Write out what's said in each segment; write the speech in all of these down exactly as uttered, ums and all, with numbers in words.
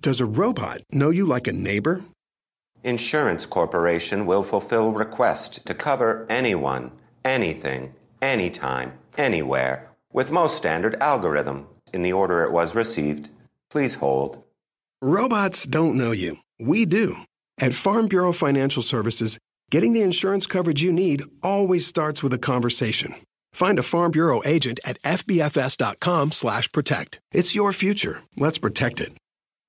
Does a robot know you like a neighbor? Insurance Corporation will fulfill requests to cover anyone, anything, anytime, anywhere, with most standard algorithm in the order it was received. Please hold. Robots don't know you. We do. At Farm Bureau Financial Services, getting the insurance coverage you need always starts with a conversation. Find a Farm Bureau agent at F B F S dot com slash protect. It's your future. Let's protect it.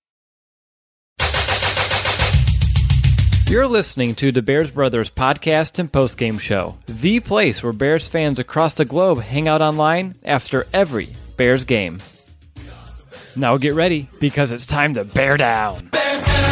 You're listening to the Bears Brothers podcast and postgame show, the place where Bears fans across the globe hang out online after every Bears game. Now get ready, because it's time to bear down. Bear down!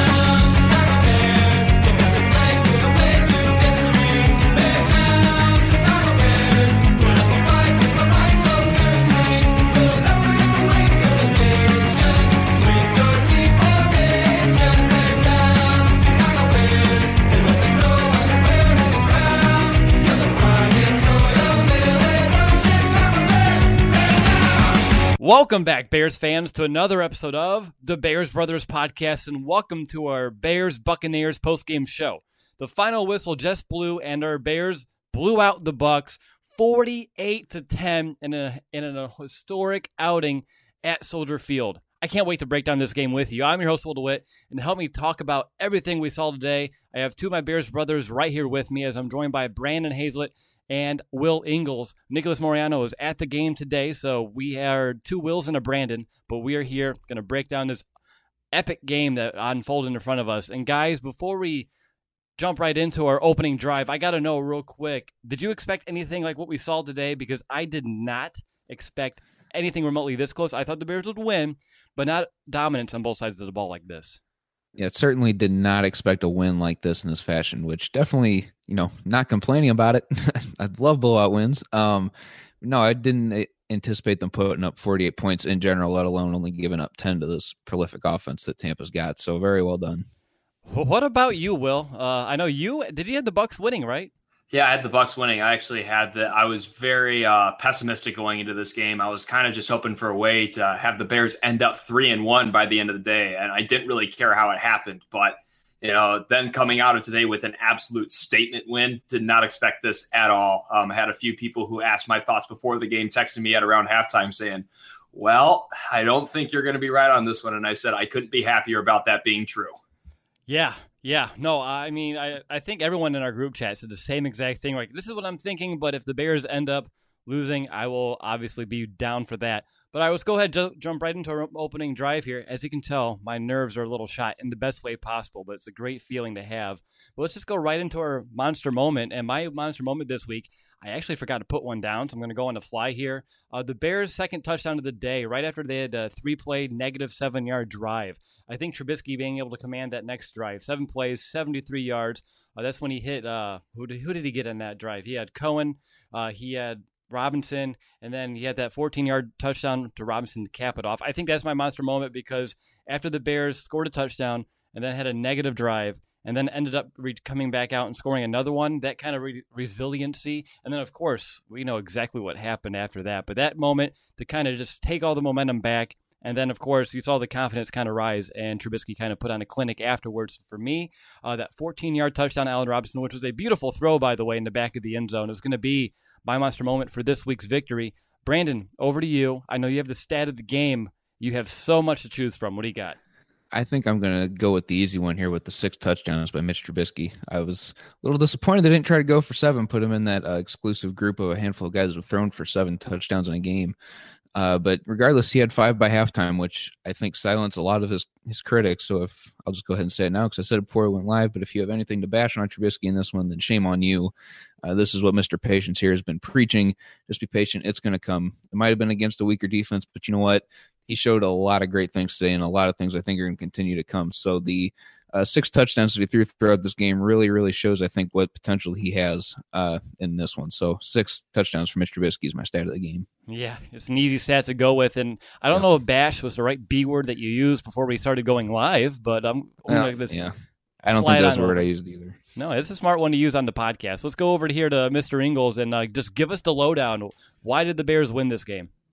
Welcome back, Bears fans, to another episode of the Bears Brothers podcast, and welcome to our Bears Buccaneers postgame show. The final whistle just blew, and our Bears blew out the Bucs forty-eight to ten in a in a historic outing at Soldier Field. I can't wait to break down this game with you. I'm your host, Will DeWitt, and to help me talk about everything we saw today, I have two of my Bears brothers right here with me, as I'm joined by Brandon Hazlett and Will Ingles. Nicholas Moriano is at the game today, so we are two Wills and a Brandon, but we are here going to break down this epic game that unfolded in front of us. And guys, before we jump right into our opening drive, I got to know real quick, did you expect anything like what we saw today? Because I did not expect anything remotely this close. I thought the Bears would win, but not dominance on both sides of the ball like this. Yeah, it certainly did not expect a win like this in this fashion, which definitely, you know, not complaining about it. I love blowout wins. Um, no, I didn't anticipate them putting up forty-eight points in general, let alone only giving up ten to this prolific offense that Tampa's got. So very well done. What about you, Will? Uh, I know you, did you have the Bucs winning, right? Yeah, I had the Bucs winning. I actually had the. I was very uh, pessimistic going into this game. I was kind of just hoping for a way to have the Bears end up three and one by the end of the day, and I didn't really care how it happened. But you know, then coming out of today with an absolute statement win, did not expect this at all. Um, I had a few people who asked my thoughts before the game, texting me at around halftime saying, "Well, I don't think you're going to be right on this one," and I said I couldn't be happier about that being true. Yeah. Yeah, no, I mean, I, I think everyone in our group chat said the same exact thing. Like, this is what I'm thinking, but if the Bears end up losing, I will obviously be down for that. But I let's go ahead and ju- jump right into our opening drive here. As you can tell, my nerves are a little shot in the best way possible, but it's a great feeling to have. But let's just go right into our monster moment. And my monster moment this week, I actually forgot to put one down, so I'm going to go on the fly here. Uh, the Bears' second touchdown of the day, right after they had a three-play, negative seven-yard drive. I think Trubisky being able to command that next drive. Seven plays, seventy-three yards. Uh, that's when he hit, uh, who, did, who did he get in that drive? He had Cohen, uh, he had Robinson, and then he had that fourteen-yard touchdown to Robinson to cap it off. I think that's my monster moment because after the Bears scored a touchdown and then had a negative drive, and then ended up re- coming back out and scoring another one, that kind of re- resiliency. And then, of course, we know exactly what happened after that. But that moment to kind of just take all the momentum back, and then, of course, you saw the confidence kind of rise, and Trubisky kind of put on a clinic afterwards. For me, uh, that fourteen-yard touchdown to Allen Robinson, which was a beautiful throw, by the way, in the back of the end zone, is going to be my monster moment for this week's victory. Brandon, over to you. I know you have the stat of the game. You have so much to choose from. What do you got? I think I'm going to go with the easy one here with the six touchdowns by Mitch Trubisky. I was a little disappointed they didn't try to go for seven, put him in that uh, exclusive group of a handful of guys who have thrown for seven touchdowns in a game. Uh, but regardless, he had five by halftime, which I think silenced a lot of his, his critics. So if I'll just go ahead and say it now because I said it before we went live, but if you have anything to bash on Trubisky in this one, then shame on you. Uh, this is what Mister Patience here has been preaching. Just be patient. It's going to come. It might have been against a weaker defense, but you know what? He showed a lot of great things today, and a lot of things I think are going to continue to come. So the uh, six touchdowns that he threw throughout this game really, really shows, I think, what potential he has uh, in this one. So six touchdowns for Mister Trubisky is my stat of the game. Yeah, it's an easy stat to go with, and I don't yeah. know if bash was the right B word that you used before we started going live, but I'm yeah, like this. Yeah, I don't think that's the word I used either. No, it's a smart one to use on the podcast. Let's go over to here to Mister Ingles and uh, just give us the lowdown. Why did the Bears win this game?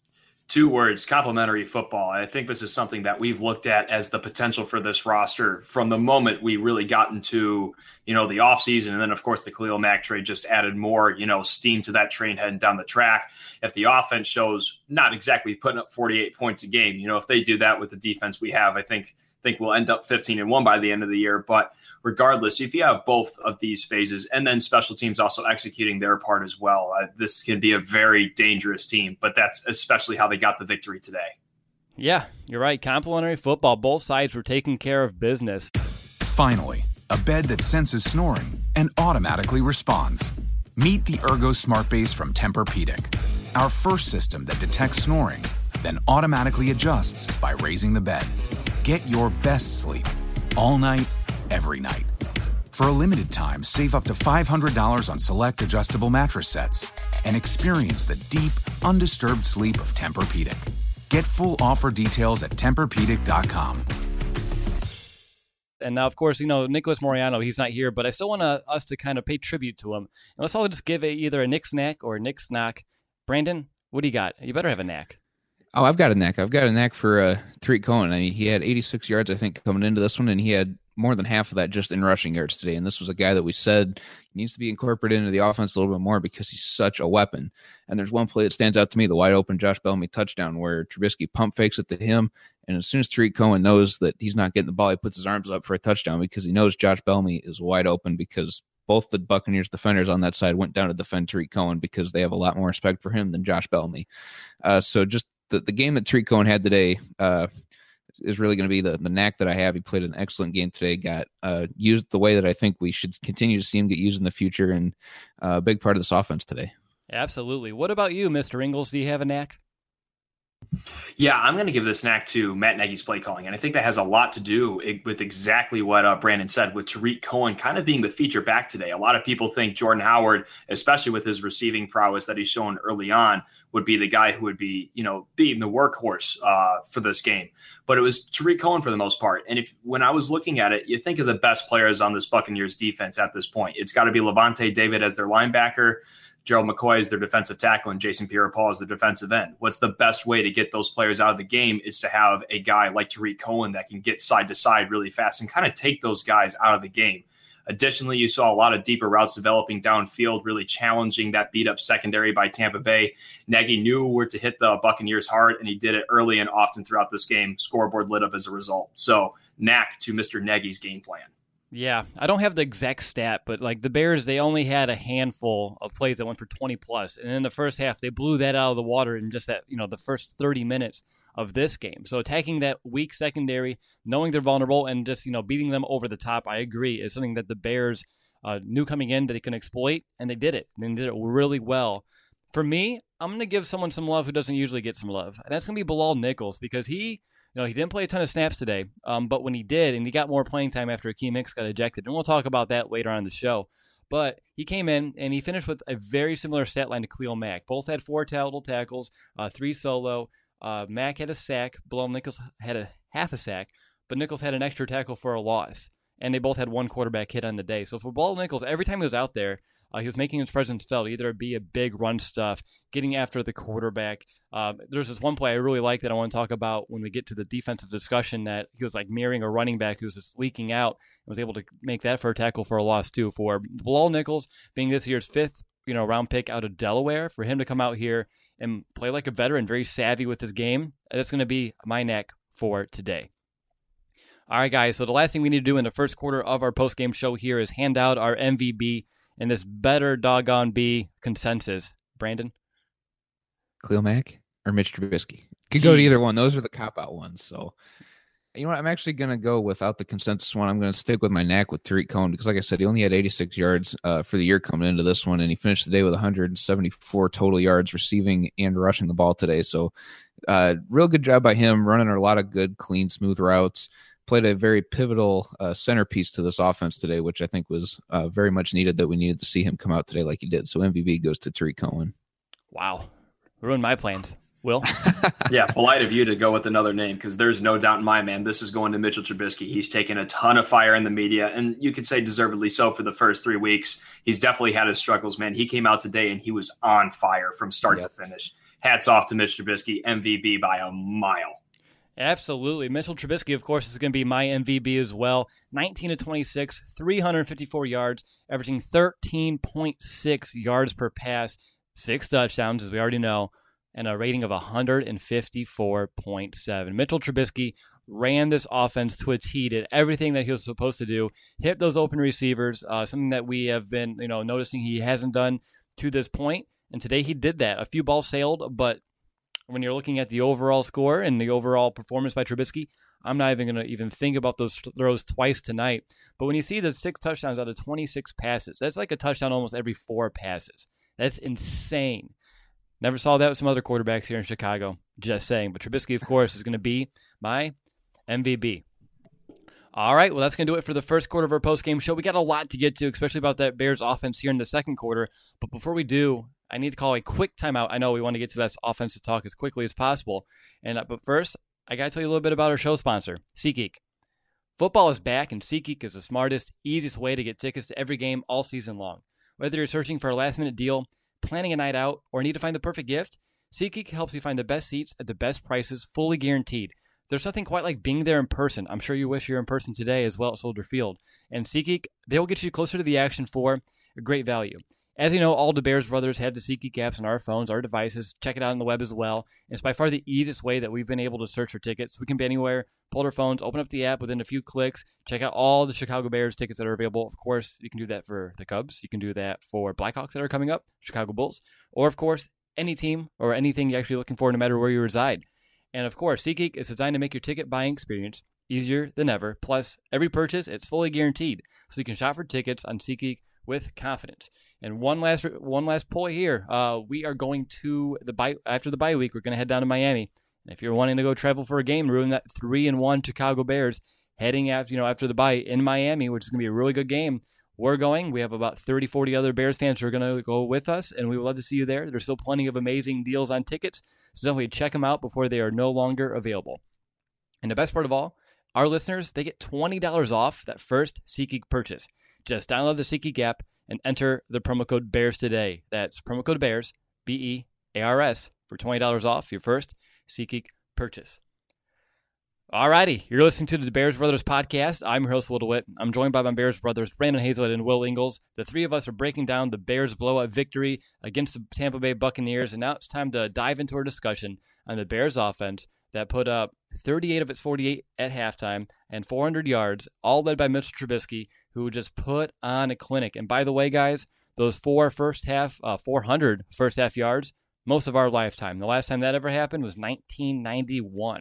Two words, complementary football. I think this is something that we've looked at as the potential for this roster from the moment we really got into, you know, the offseason. And then, of course, the Khalil Mack trade just added more, you know, steam to that train heading down the track. If the offense shows not exactly putting up forty-eight points a game, you know, if they do that with the defense we have, I think think we'll end up fifteen and one by the end of the year. But regardless, if you have both of these phases and then special teams also executing their part as well, uh, this can be a very dangerous team. But that's especially how they got the victory today. Yeah, you're right. Complementary football. Both sides were taking care of business. Finally, a bed that senses snoring and automatically responds. Meet the Ergo Smart Base from Tempur-Pedic, our first system that detects snoring, then automatically adjusts by raising the bed. Get your best sleep all night, every night. For a limited time, save up to five hundred dollars on select adjustable mattress sets and experience the deep, undisturbed sleep of Tempur-Pedic. Get full offer details at Tempur Pedic dot com. And now, of course, you know, Nicholas Moreano, he's not here, but I still want to, us to kind of pay tribute to him. And let's all just give a, either a Nick Snack or a Nick Snack. Brandon, what do you got? You better have a knack. Oh, I've got a knack. I've got a knack for uh, Tariq Cohen. I mean, he had eighty-six yards, I think, coming into this one, and he had more than half of that just in rushing yards today. And this was a guy that we said needs to be incorporated into the offense a little bit more because he's such a weapon. And there's one play that stands out to me, the wide open Josh Bellamy touchdown where Trubisky pump fakes it to him. And as soon as Tariq Cohen knows that he's not getting the ball, he puts his arms up for a touchdown because he knows Josh Bellamy is wide open because both the Buccaneers defenders on that side went down to defend Tariq Cohen because they have a lot more respect for him than Josh Bellamy. Uh, so just the, the game that Tariq Cohen had today, uh, is really going to be the, the knack that I have. He played an excellent game today, got uh, used the way that I think we should continue to see him get used in the future, and uh, a big part of this offense today. Absolutely. What about you, Mister Ingles? Do you have a knack? Yeah, I'm going to give this knack to Matt Nagy's play calling, and I think that has a lot to do with exactly what uh, Brandon said, with Tariq Cohen kind of being the feature back today. A lot of people think Jordan Howard, especially with his receiving prowess that he's shown early on, would be the guy who would be, you know, being the workhorse uh, for this game. But it was Tariq Cohen for the most part. And if when I was looking at it, you think of the best players on this Buccaneers defense at this point. It's got to be Levante David as their linebacker, Gerald McCoy is their defensive tackle, and Jason Pierre-Paul is the defensive end. What's the best way to get those players out of the game is to have a guy like Tariq Cohen that can get side to side really fast and kind of take those guys out of the game. Additionally, you saw a lot of deeper routes developing downfield, really challenging that beat-up secondary by Tampa Bay. Nagy knew where to hit the Buccaneers hard, and he did it early and often throughout this game. Scoreboard lit up as a result. So, knack to Mister Nagy's game plan. Yeah, I don't have the exact stat, but like the Bears, they only had a handful of plays that went for twenty plus, and in the first half, they blew that out of the water in just that, you know, the first thirty minutes of this game. So attacking that weak secondary, knowing they're vulnerable, and just, you know, beating them over the top, I agree, is something that the Bears uh, knew coming in that they can exploit, and they did it. And they did it really well. For me, I'm going to give someone some love who doesn't usually get some love, and that's going to be Bilal Nichols, because he, you know, he didn't play a ton of snaps today, um, but when he did, and he got more playing time after Akeem Hicks got ejected, and we'll talk about that later on in the show, but he came in, and he finished with a very similar stat line to Khalil Mack. Both had four total tackles, uh, three solo. Uh, Mack had a sack. Bilal Nichols had a half a sack, but Nichols had an extra tackle for a loss. And they both had one quarterback hit on the day. So for Bilal Nichols, every time he was out there, uh, he was making his presence felt, either be a big run stuff, getting after the quarterback. Uh, there's this one play I really like that I want to talk about when we get to the defensive discussion, that he was like mirroring a running back who was just leaking out and was able to make that for a tackle for a loss too. For Bilal Nichols being this year's fifth you know, round pick out of Delaware, for him to come out here and play like a veteran, very savvy with his game, that's going to be my knack for today. All right, guys, so the last thing we need to do in the first quarter of our post-game show here is hand out our M V B and this better doggone be consensus. Brandon? Khalil Mack or Mitch Trubisky? Could go to either one. Those are the cop-out ones. So, you know what? I'm actually going to go without the consensus one. I'm going to stick with my knack with Tariq Cohen because, like I said, he only had eighty-six yards uh, for the year coming into this one, and he finished the day with one hundred seventy-four total yards receiving and rushing the ball today. So, uh, real good job by him, running a lot of good, clean, smooth routes. Played a very pivotal uh, centerpiece to this offense today, which I think was uh, very much needed, that we needed to see him come out today like he did. So M V B goes to Tariq Cohen. Wow. Ruined my plans. Will? Yeah, polite of you to go with another name, because there's no doubt in my man this is going to Mitchell Trubisky. He's taken a ton of fire in the media, and you could say deservedly so for the first three weeks. He's definitely had his struggles, man. He came out today, and he was on fire from start yep. to finish. hats off to Mitch Trubisky, M V P by a mile. Absolutely. Mitchell Trubisky, of course, is going to be my M V P as well. nineteen to twenty-six, three hundred fifty-four yards, averaging thirteen point six yards per pass, six touchdowns, as we already know, and a rating of one fifty-four point seven. Mitchell Trubisky ran this offense to a T, did everything that he was supposed to do, hit those open receivers, uh, something that we have been, you know, noticing he hasn't done to this point. And today he did that. A few balls sailed, but when you're looking at the overall score and the overall performance by Trubisky, I'm not even going to even think about those throws twice tonight. But when you see the six touchdowns out of twenty-six passes, that's like a touchdown almost every four passes. That's insane. Never saw that with some other quarterbacks here in Chicago. Just saying. But Trubisky, of course, is going to be my M V P. All right, well, that's going to do it for the first quarter of our post-game show. We got a lot to get to, especially about that Bears offense here in the second quarter. But before we do, I need to call a quick timeout. I know we want to get to that offensive talk as quickly as possible. And uh, But first, I got to tell you a little bit about our show sponsor, SeatGeek. Football is back, and SeatGeek is the smartest, easiest way to get tickets to every game all season long. Whether you're searching for a last-minute deal, planning a night out, or need to find the perfect gift, SeatGeek helps you find the best seats at the best prices, fully guaranteed. There's nothing quite like being there in person. I'm sure you wish you're in person today as well at Soldier Field. And SeatGeek, they will get you closer to the action for a great value. As you know, all the Bears brothers have the SeatGeek apps on our phones, our devices. Check it out on the web as well. And it's by far the easiest way that we've been able to search for tickets. We can be anywhere, pull our phones, open up the app within a few clicks, check out all the Chicago Bears tickets that are available. Of course, you can do that for the Cubs. You can do that for Blackhawks that are coming up, Chicago Bulls, or, of course, any team or anything you're actually looking for no matter where you reside. And, of course, SeatGeek is designed to make your ticket buying experience easier than ever. Plus, every purchase, it's fully guaranteed. So you can shop for tickets on SeatGeek with confidence. And one last one last pull here. Uh, we are going to the bye after the bye week. We're going to head down to Miami. And if you're wanting to go travel for a game, ruin that three and one Chicago Bears heading after you know after the bye in Miami, which is going to be a really good game. We're going. We have about thirty, forty other Bears fans who are going to go with us, and we would love to see you there. There's still plenty of amazing deals on tickets, so definitely check them out before they are no longer available. And the best part of all, our listeners, they get twenty dollars off that first SeatGeek purchase. Just download the SeatGeek app and enter the promo code BEARS today. That's promo code BEARS, B E A R S, for twenty dollars off your first SeatGeek purchase. Alrighty, you're listening to the Bears Brothers podcast. I'm your host, Will DeWitt. I'm joined by my Bears brothers, Brandon Hazlett and Will Ingles. The three of us are breaking down the Bears' blowout victory against the Tampa Bay Buccaneers, and now it's time to dive into our discussion on the Bears offense that put up thirty-eight of its forty-eight at halftime and four hundred yards, all led by Mitchell Trubisky, who just put on a clinic. And by the way, guys, those four first half, uh, four hundred first half yards, most of our lifetime. The last time that ever happened was nineteen ninety-one.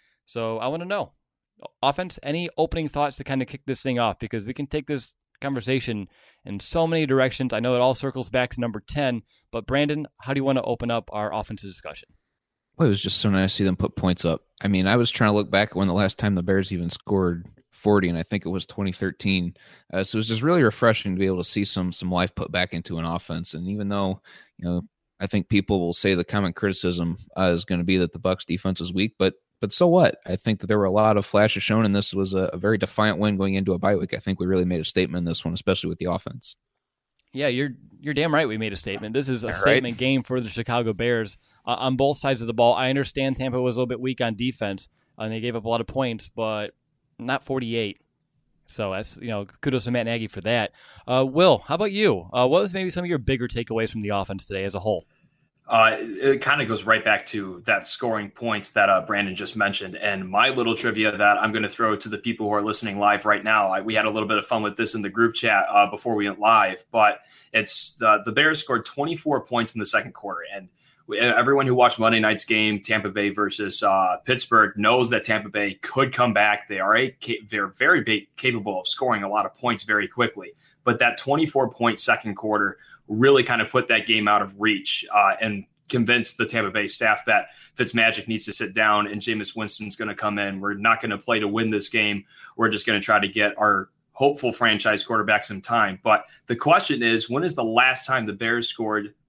So I want to know, offense, any opening thoughts to kind of kick this thing off? Because we can take this conversation in so many directions. I know it all circles back to number ten, but Brandon, how do you want to open up our offensive discussion? Well, it was just so nice to see them put points up. I mean, I was trying to look back at when the last time the Bears even scored forty, and I think it was twenty thirteen. Uh, so it was just really refreshing to be able to see some some life put back into an offense. And even though, you know, I think people will say the common criticism uh, is going to be that the Bucs defense is weak, but But so what? I think that there were a lot of flashes shown, and this was a, a very defiant win going into a bye week. I think we really made a statement in this one, especially with the offense. Yeah, you're you're damn right we made a statement. This is a All statement right. game for the Chicago Bears uh, on both sides of the ball. I understand Tampa was a little bit weak on defense, and they gave up a lot of points, but not forty-eight. So that's, you know, kudos to Matt Nagy for that. Uh, Will, how about you? Uh, what was maybe some of your bigger takeaways from the offense today as a whole? Uh, it kind of goes right back to that scoring points that uh, Brandon just mentioned. And my little trivia that I'm going to throw to the people who are listening live right now. I, we had a little bit of fun with this in the group chat uh, before we went live, but it's uh, the Bears scored twenty-four points in the second quarter. And we, everyone who watched Monday night's game, Tampa Bay versus uh, Pittsburgh, knows that Tampa Bay could come back. They are a, they're very big, capable of scoring a lot of points very quickly. But that twenty-four point second quarter really kind of put that game out of reach uh, and convinced the Tampa Bay staff that Fitzmagic needs to sit down and Jameis Winston's going to come in. We're not going to play to win this game. We're just going to try to get our hopeful franchise quarterback some time. But the question is, when is the last time the Bears scored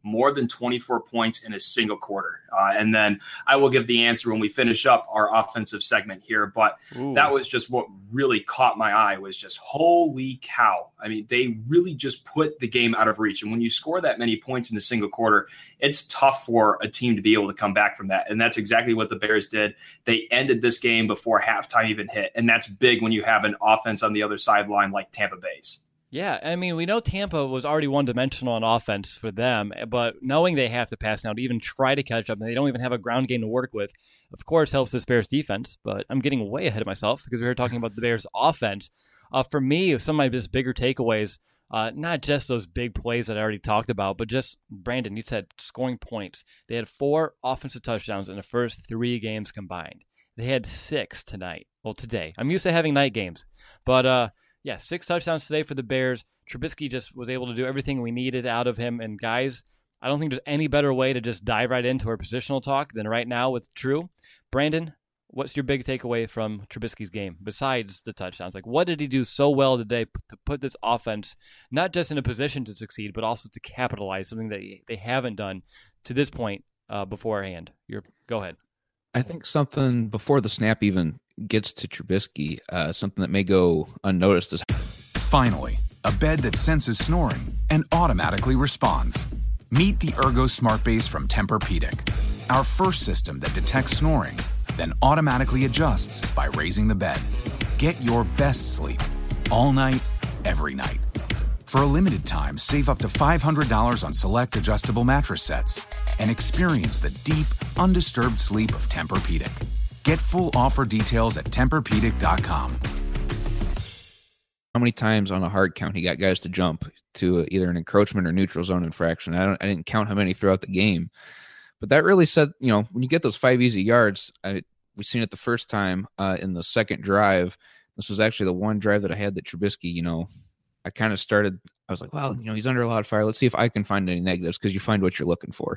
more than twenty-four points in a single quarter. Uh, and then I will give the answer when we finish up our offensive segment here. But Ooh. That was just what really caught my eye was just, holy cow. I mean, they really just put the game out of reach. And when you score that many points in a single quarter, it's tough for a team to be able to come back from that. And that's exactly what the Bears did. They ended this game before halftime even hit. And that's big when you have an offense on the other sideline like Tampa Bay's. Yeah, I mean, we know Tampa was already one-dimensional on offense for them, but knowing they have to pass now to even try to catch up, and they don't even have a ground game to work with, of course, helps this Bears defense. But I'm getting way ahead of myself because we were talking about the Bears offense. Uh, for me, some of my just bigger takeaways, uh, not just those big plays that I already talked about, but just, Brandon, you said scoring points. They had four offensive touchdowns in the first three games combined. They had six tonight. Well, today. I'm used to having night games. But, uh, yeah, six touchdowns today for the Bears. Trubisky just was able to do everything we needed out of him. And, guys, I don't think there's any better way to just dive right into our positional talk than right now with True. Brandon, what's your big takeaway from Trubisky's game besides the touchdowns? Like, what did he do so well today to put this offense not just in a position to succeed, but also to capitalize, something that they haven't done to this point uh, beforehand? You're, go ahead. I think something before the snap even gets to Trubisky, uh, something that may go unnoticed is finally a bed that senses snoring and automatically responds. Meet the Ergo Smart Base from Tempur-Pedic, our first system that detects snoring, then automatically adjusts by raising the bed. Get your best sleep all night, every night. For a limited time, save up to five hundred dollars on select adjustable mattress sets and experience the deep, undisturbed sleep of Tempur-Pedic. Get full offer details at Tempur Pedic dot com. How many times on a hard count he got guys to jump to either an encroachment or neutral zone infraction? I don't. I didn't count how many throughout the game, but that really said, you know, when you get those five easy yards, I, we've seen it the first time uh, in the second drive. This was actually the one drive that I had that Trubisky, you know, I kind of started, I was like, well, you know, he's under a lot of fire. Let's see if I can find any negatives, because you find what you're looking for.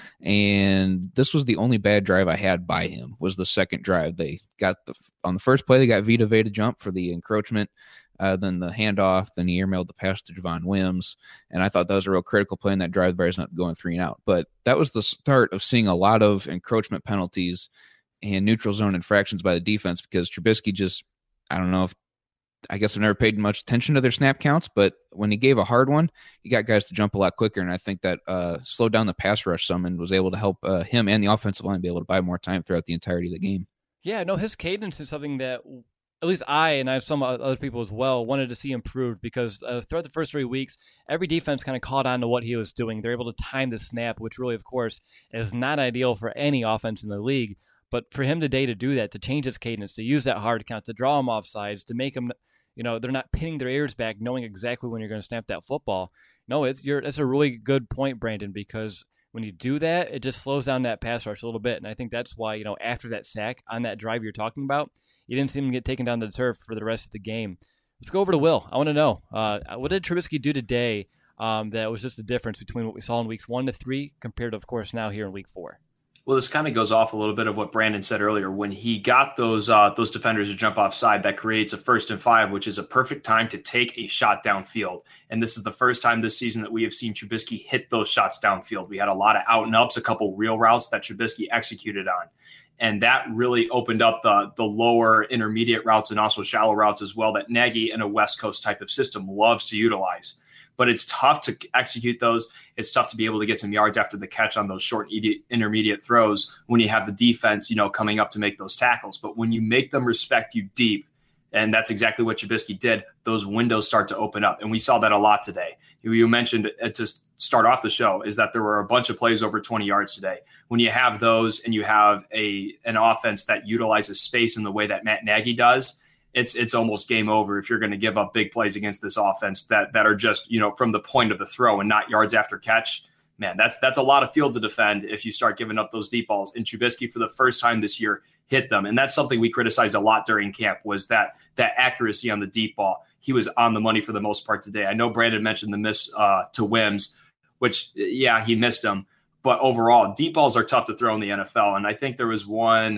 And this was the only bad drive I had by him, was the second drive. They got the, on the first play, they got Vita Vea to jump for the encroachment, uh, then the handoff, then he airmailed the pass to Javon Wims. And I thought that was a real critical play in that drive. The Bears not going three and out. But that was the start of seeing a lot of encroachment penalties and neutral zone infractions by the defense, because Trubisky just, I don't know if, I guess I've never paid much attention to their snap counts, but when he gave a hard one, he got guys to jump a lot quicker, and I think that uh, slowed down the pass rush some and was able to help uh, him and the offensive line be able to buy more time throughout the entirety of the game. Yeah, no, his cadence is something that at least I, and I have some other people as well, wanted to see improved, because uh, throughout the first three weeks, every defense kind of caught on to what he was doing. They're able to time the snap, which really, of course, is not ideal for any offense in the league. But for him today to do that, to change his cadence, to use that hard count, to draw him off sides, to make him, you know, they're not pinning their ears back, knowing exactly when you're going to snap that football. No, it's you're, that's a really good point, Brandon, because when you do that, it just slows down that pass rush a little bit. And I think that's why, you know, after that sack on that drive you're talking about, you didn't see him get taken down to the turf for the rest of the game. Let's go over to Will. I want to know, uh, what did Trubisky do today um, that was just the difference between what we saw in weeks one to three compared to, of course, now here in week four? Well, this kind of goes off a little bit of what Brandon said earlier. When he got those uh, those defenders to jump offside, that creates a first and five, which is a perfect time to take a shot downfield. And this is the first time this season that we have seen Trubisky hit those shots downfield. We had a lot of out and ups, a couple real routes that Trubisky executed on. And that really opened up the, the lower intermediate routes and also shallow routes as well that Nagy in a West Coast type of system loves to utilize. But it's tough to execute those. It's tough to be able to get some yards after the catch on those short intermediate throws when you have the defense, you know, coming up to make those tackles. But when you make them respect you deep, and that's exactly what Trubisky did, those windows start to open up. And we saw that a lot today. You mentioned to start off the show is that there were a bunch of plays over twenty yards today. When you have those and you have a an offense that utilizes space in the way that Matt Nagy does, it's it's almost game over if you're going to give up big plays against this offense that that are just, you know, from the point of the throw and not yards after catch. Man, that's that's a lot of field to defend if you start giving up those deep balls. And Trubisky, for the first time this year, hit them. And that's something we criticized a lot during camp, was that that accuracy on the deep ball. He was on the money for the most part today. I know Brandon mentioned the miss uh, to Wims, which, yeah, he missed them. But overall, deep balls are tough to throw in the N F L. And I think there was one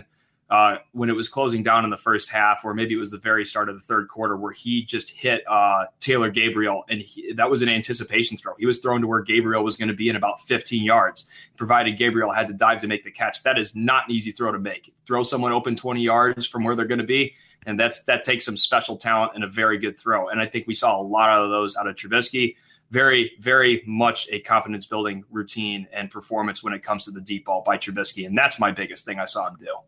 uh, when it was closing down in the first half, or maybe it was the very start of the third quarter, where he just hit uh, Taylor Gabriel, and he, that was an anticipation throw. He was thrown to where Gabriel was going to be in about fifteen yards, provided Gabriel had to dive to make the catch. That is not an easy throw to make. Throw someone open twenty yards from where they're going to be, and that's that takes some special talent and a very good throw. And I think we saw a lot of those out of Trubisky. Very, very much a confidence-building routine and performance when it comes to the deep ball by Trubisky, and that's my biggest thing I saw him do.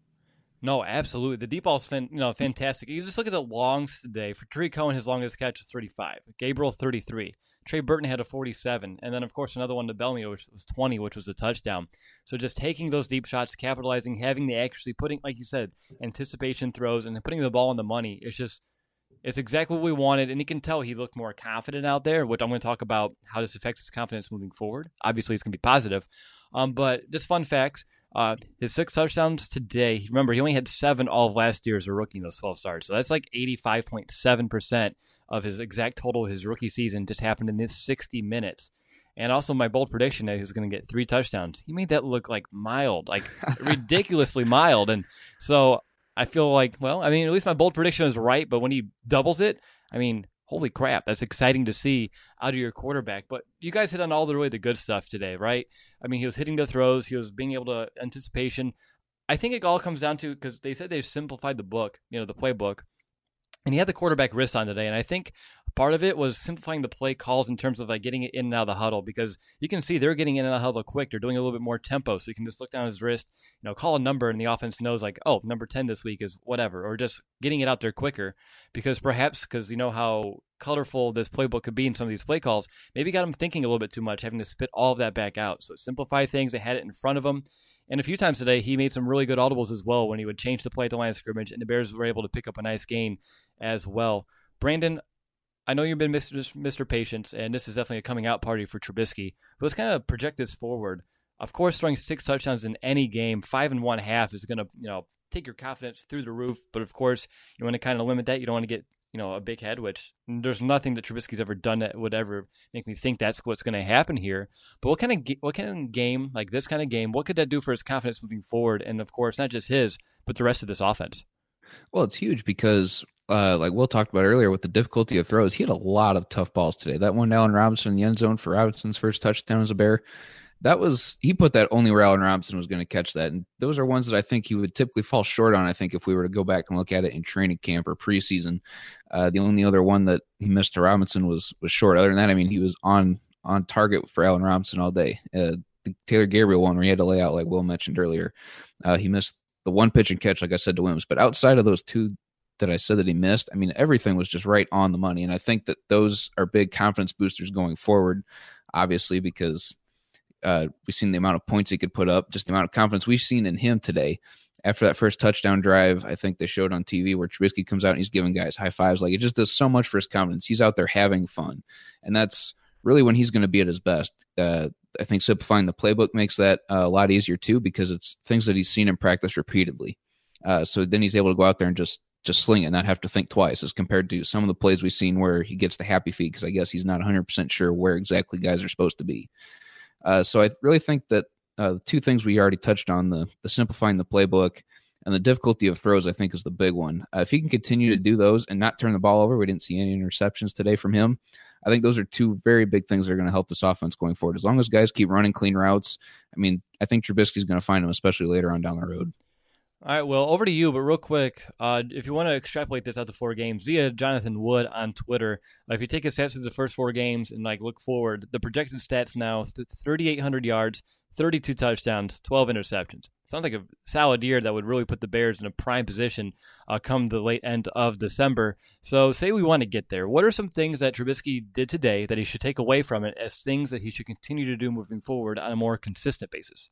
No, absolutely. The deep ball's fan, you know, fantastic. You just look at the longs today. For Tariq Cohen, his longest catch was thirty-five. Gabriel, thirty-three. Trey Burton had a forty-seven. And then, of course, another one to Bellamy, which was twenty, which was a touchdown. So just taking those deep shots, capitalizing, having the accuracy, putting, like you said, anticipation throws, and putting the ball on the money, it's just, it's exactly what we wanted. And you can tell he looked more confident out there, which I'm going to talk about how this affects his confidence moving forward. Obviously, it's going to be positive. Um, but just fun facts. Uh, his six touchdowns today, remember, he only had seven all of last year as a rookie in those twelve starts. So that's like eighty-five point seven percent of his exact total of his rookie season just happened in this sixty minutes. And also my bold prediction that he's going to get three touchdowns. He made that look like mild, like ridiculously mild. And so I feel like, well, I mean, at least my bold prediction is right. But when he doubles it, I mean, holy crap, that's exciting to see out of your quarterback. But you guys hit on all the really the good stuff today, right? I mean, he was hitting the throws. He was being able to anticipation. I think it all comes down to, because they said they simplified the book, you know, the playbook. And he had the quarterback wrist on today. And I think part of it was simplifying the play calls in terms of like getting it in and out of the huddle, because you can see they're getting in and out of the huddle quick. They're doing a little bit more tempo. So you can just look down his wrist, you know, call a number, and the offense knows like, oh, number ten this week is whatever, or just getting it out there quicker, because perhaps because you know how colorful this playbook could be in some of these play calls, maybe got him thinking a little bit too much, having to spit all of that back out. So simplify things. They had it in front of him. And a few times today, he made some really good audibles as well when he would change the play at the line of scrimmage, and the Bears were able to pick up a nice gain as well. Brandon, I know you've been Mister Mister Patience, and this is definitely a coming out party for Trubisky. But let's kind of project this forward. Of course, throwing six touchdowns in any game, five and one half, is going to, you know, take your confidence through the roof. But of course, you want to kind of limit that. You don't want to get, you know, a big head, which there's nothing that Trubisky's ever done that would ever make me think that's what's going to happen here. But what kind of what kind of game, like this kind of game, what could that do for his confidence moving forward? And of course, not just his, but the rest of this offense. Well, it's huge because, uh, like Will talked about earlier, with the difficulty of throws, he had a lot of tough balls today. That one to Allen Robinson in the end zone for Robinson's first touchdown as a Bear, that was, he put that only where Allen Robinson was going to catch that. And those are ones that I think he would typically fall short on, I think, if we were to go back and look at it in training camp or preseason. Uh, the only other one that he missed to Robinson was was short. Other than that, I mean, he was on on target for Allen Robinson all day. Uh, the Taylor Gabriel one where he had to lay out, like Will mentioned earlier, uh, he missed the one pitch and catch, like I said, to Wims. But outside of those two that I said that he missed, I mean, everything was just right on the money. And I think that those are big confidence boosters going forward, obviously, because uh, we've seen the amount of points he could put up, just the amount of confidence we've seen in him today. After that first touchdown drive, I think they showed on T V where Trubisky comes out and he's giving guys high fives. Like, it just does so much for his confidence. He's out there having fun. And that's really when he's going to be at his best. Uh, I think simplifying the playbook makes that uh, a lot easier too, because it's things that he's seen in practice repeatedly. Uh, so then he's able to go out there and just just sling it and not have to think twice, as compared to some of the plays we've seen where he gets the happy feet because I guess he's not one hundred percent sure where exactly guys are supposed to be. Uh, so I really think that uh, the two things we already touched on, the, the simplifying the playbook and the difficulty of throws, I think is the big one. Uh, if he can continue to do those and not turn the ball over, we didn't see any interceptions today from him. I think those are two very big things that are going to help this offense going forward. As long as guys keep running clean routes, I mean, I think Trubisky's going to find them, especially later on down the road. All right, well, over to you, but real quick, uh, if you want to extrapolate this out to four games, via Jonathan Wood on Twitter, uh, if you take his stats through the first four games and like look forward, the projected stats now, th- thirty-eight hundred yards, thirty-two touchdowns, twelve interceptions. Sounds like a solid year that would really put the Bears in a prime position uh, come the late end of December. So say we want to get there. What are some things that Trubisky did today that he should take away from it as things that he should continue to do moving forward on a more consistent basis?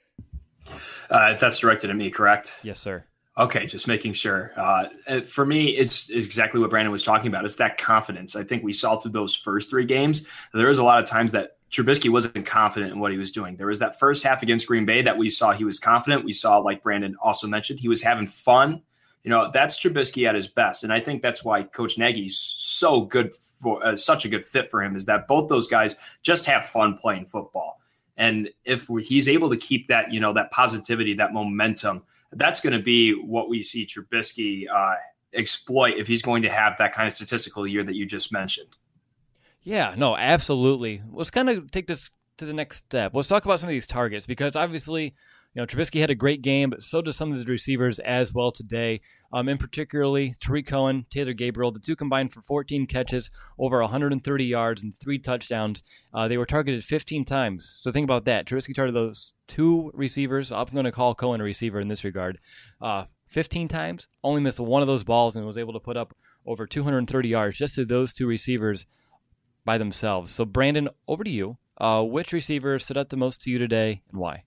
Uh, that's directed at me, correct? Yes, sir. Okay, just making sure. Uh, for me, it's exactly what Brandon was talking about. It's that confidence. I think we saw through those first three games, there was a lot of times that Trubisky wasn't confident in what he was doing. There was that first half against Green Bay that we saw he was confident. We saw, like Brandon also mentioned, he was having fun. You know, that's Trubisky at his best. And I think that's why Coach Nagy's so good for uh, such a good fit for him, is that both those guys just have fun playing football. And if he's able to keep that, you know, that positivity, that momentum, That's going to be what we see Trubisky uh, exploit if he's going to have that kind of statistical year that you just mentioned. Yeah, no, absolutely. Let's kind of take this to the next step. Let's talk about some of these targets, because obviously, you know, Trubisky had a great game, but so does some of his receivers as well today. Um, in particularly, Tarik Cohen, Taylor Gabriel, the two combined for fourteen catches, over one hundred thirty yards, and three touchdowns. Uh, they were targeted fifteen times. So think about that. Trubisky targeted those two receivers. I'm going to call Cohen a receiver in this regard. Uh, fifteen times, only missed one of those balls, and was able to put up over two hundred thirty yards just to those two receivers by themselves. So, Brandon, over to you. Uh, which receiver stood out the most to you today, and why?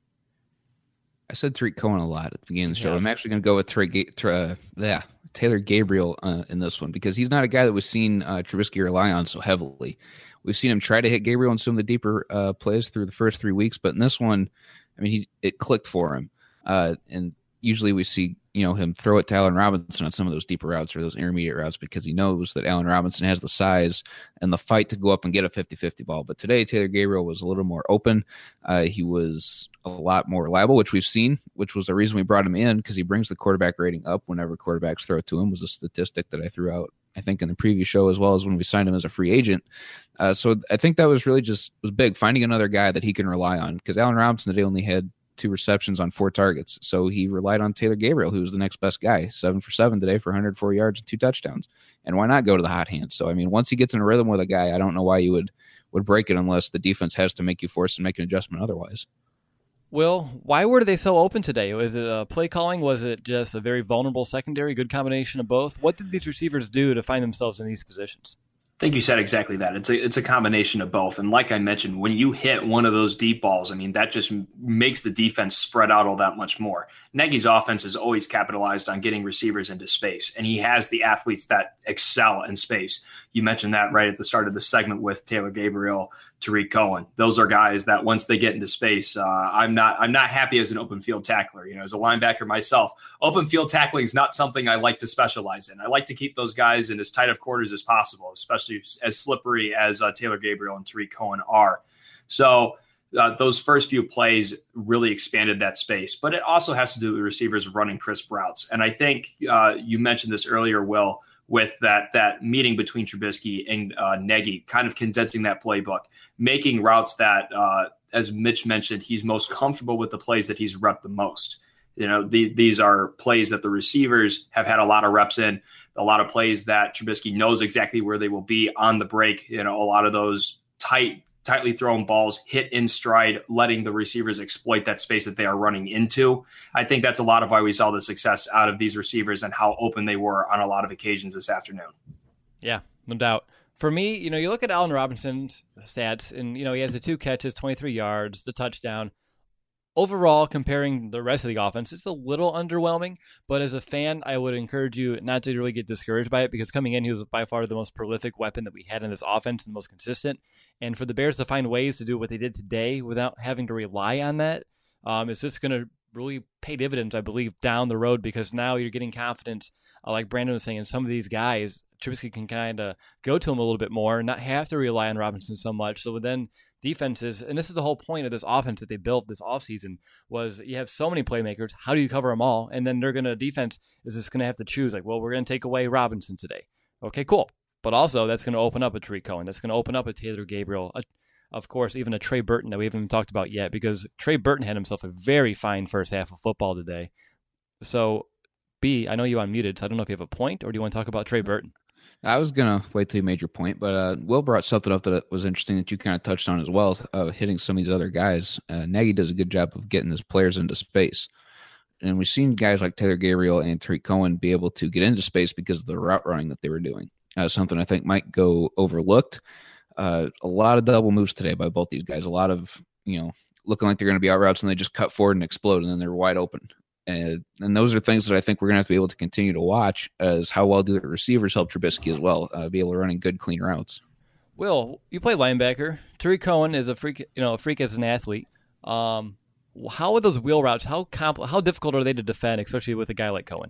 I said Tarik Cohen a lot at the beginning of the show. Yeah. I'm actually going to go with Tarik, uh, yeah, Taylor Gabriel uh, in this one, because he's not a guy that we've seen uh, Trubisky rely on so heavily. We've seen him try to hit Gabriel in some of the deeper uh, plays through the first three weeks, but in this one, I mean, he it clicked for him. Uh, and usually we see, you know, him throw it to Allen Robinson on some of those deeper routes or those intermediate routes, because he knows that Allen Robinson has the size and the fight to go up and get a fifty-fifty ball. But today, Taylor Gabriel was a little more open. Uh, he was a lot more reliable, which we've seen, which was the reason we brought him in, because he brings the quarterback rating up whenever quarterbacks throw it to him. Was a statistic that I threw out, I think, in the previous show, as well as when we signed him as a free agent. Uh, so I think that was really just was big, finding another guy that he can rely on, because Allen Robinson today only had two receptions on four targets. So he relied on Taylor Gabriel, who was the next best guy, seven for seven today for one hundred four yards and two touchdowns. And why not go to the hot hand? So, I mean, once he gets in a rhythm with a guy, I don't know why you would, would break it unless the defense has to make you force and make an adjustment otherwise. Will, why were they so open today? Was it a play calling? Was it just a very vulnerable secondary? Good combination of both? What did these receivers do to find themselves in these positions? I think you said exactly that. It's a it's a combination of both. And like I mentioned, when you hit one of those deep balls, I mean, that just makes the defense spread out all that much more. Nagy's offense has always capitalized on getting receivers into space, and he has the athletes that excel in space. You mentioned that right at the start of the segment with Taylor Gabriel, Tarik Cohen. Those are guys that once they get into space, uh, I'm not I'm not happy as an open field tackler. You know, as a linebacker myself, open field tackling is not something I like to specialize in. I like to keep those guys in as tight of quarters as possible, especially as slippery as uh, Taylor Gabriel and Tarik Cohen are. So uh, those first few plays really expanded that space, but it also has to do with the receivers running crisp routes. And I think uh, you mentioned this earlier, Will, with that that meeting between Trubisky and uh, Nagy, kind of condensing that playbook, making routes that, uh, as Mitch mentioned, he's most comfortable with the plays that he's repped the most. You know, the, these are plays that the receivers have had a lot of reps in, a lot of plays that Trubisky knows exactly where they will be on the break. You know, a lot of those tight, tightly thrown balls hit in stride, letting the receivers exploit that space that they are running into. I think that's a lot of why we saw the success out of these receivers and how open they were on a lot of occasions this afternoon. Yeah, no doubt. For me, you know, you look at Allen Robinson's stats, and, you know, he has the two catches, twenty-three yards, the touchdown. Overall, comparing the rest of the offense, it's a little underwhelming, but as a fan, I would encourage you not to really get discouraged by it, because coming in, he was by far the most prolific weapon that we had in this offense and the most consistent. And for the Bears to find ways to do what they did today without having to rely on that, um, it's just going to really pay dividends, I believe, down the road, because now you're getting confidence, uh, like Brandon was saying, in some of these guys. Trubisky can kind of go to him a little bit more and not have to rely on Robinson so much. So then defenses, and this is the whole point of this offense that they built this offseason, was you have so many playmakers. How do you cover them all? And then they're going to, defense is just going to have to choose, like, well, we're going to take away Robinson today. Okay, cool. But also that's going to open up a Tarik Cohen. That's going to open up a Taylor Gabriel. A, of course, even a Trey Burton that we haven't even talked about yet, because Trey Burton had himself a very fine first half of football today. So, B, I know you unmuted, so I don't know if you have a point, or do you want to talk about Trey Burton? I was going to wait till you made your point, but uh, Will brought something up that was interesting that you kind of touched on as well, uh, hitting some of these other guys. Uh, Nagy does a good job of getting his players into space. And we've seen guys like Taylor Gabriel and Tarik Cohen be able to get into space because of the route running that they were doing. Uh, something I think might go overlooked. Uh, a lot of double moves today by both these guys. A lot of, you know, looking like they're going to be out routes, and they just cut forward and explode, and then they're wide open. And, and those are things that I think we're going to have to be able to continue to watch, as how well do the receivers help Trubisky as well, uh, be able to run in good, clean routes. Will, you play linebacker. Tarik Cohen is a freak, you know, a freak as an athlete. Um, how are those wheel routes? How compl- How difficult are they to defend, especially with a guy like Cohen?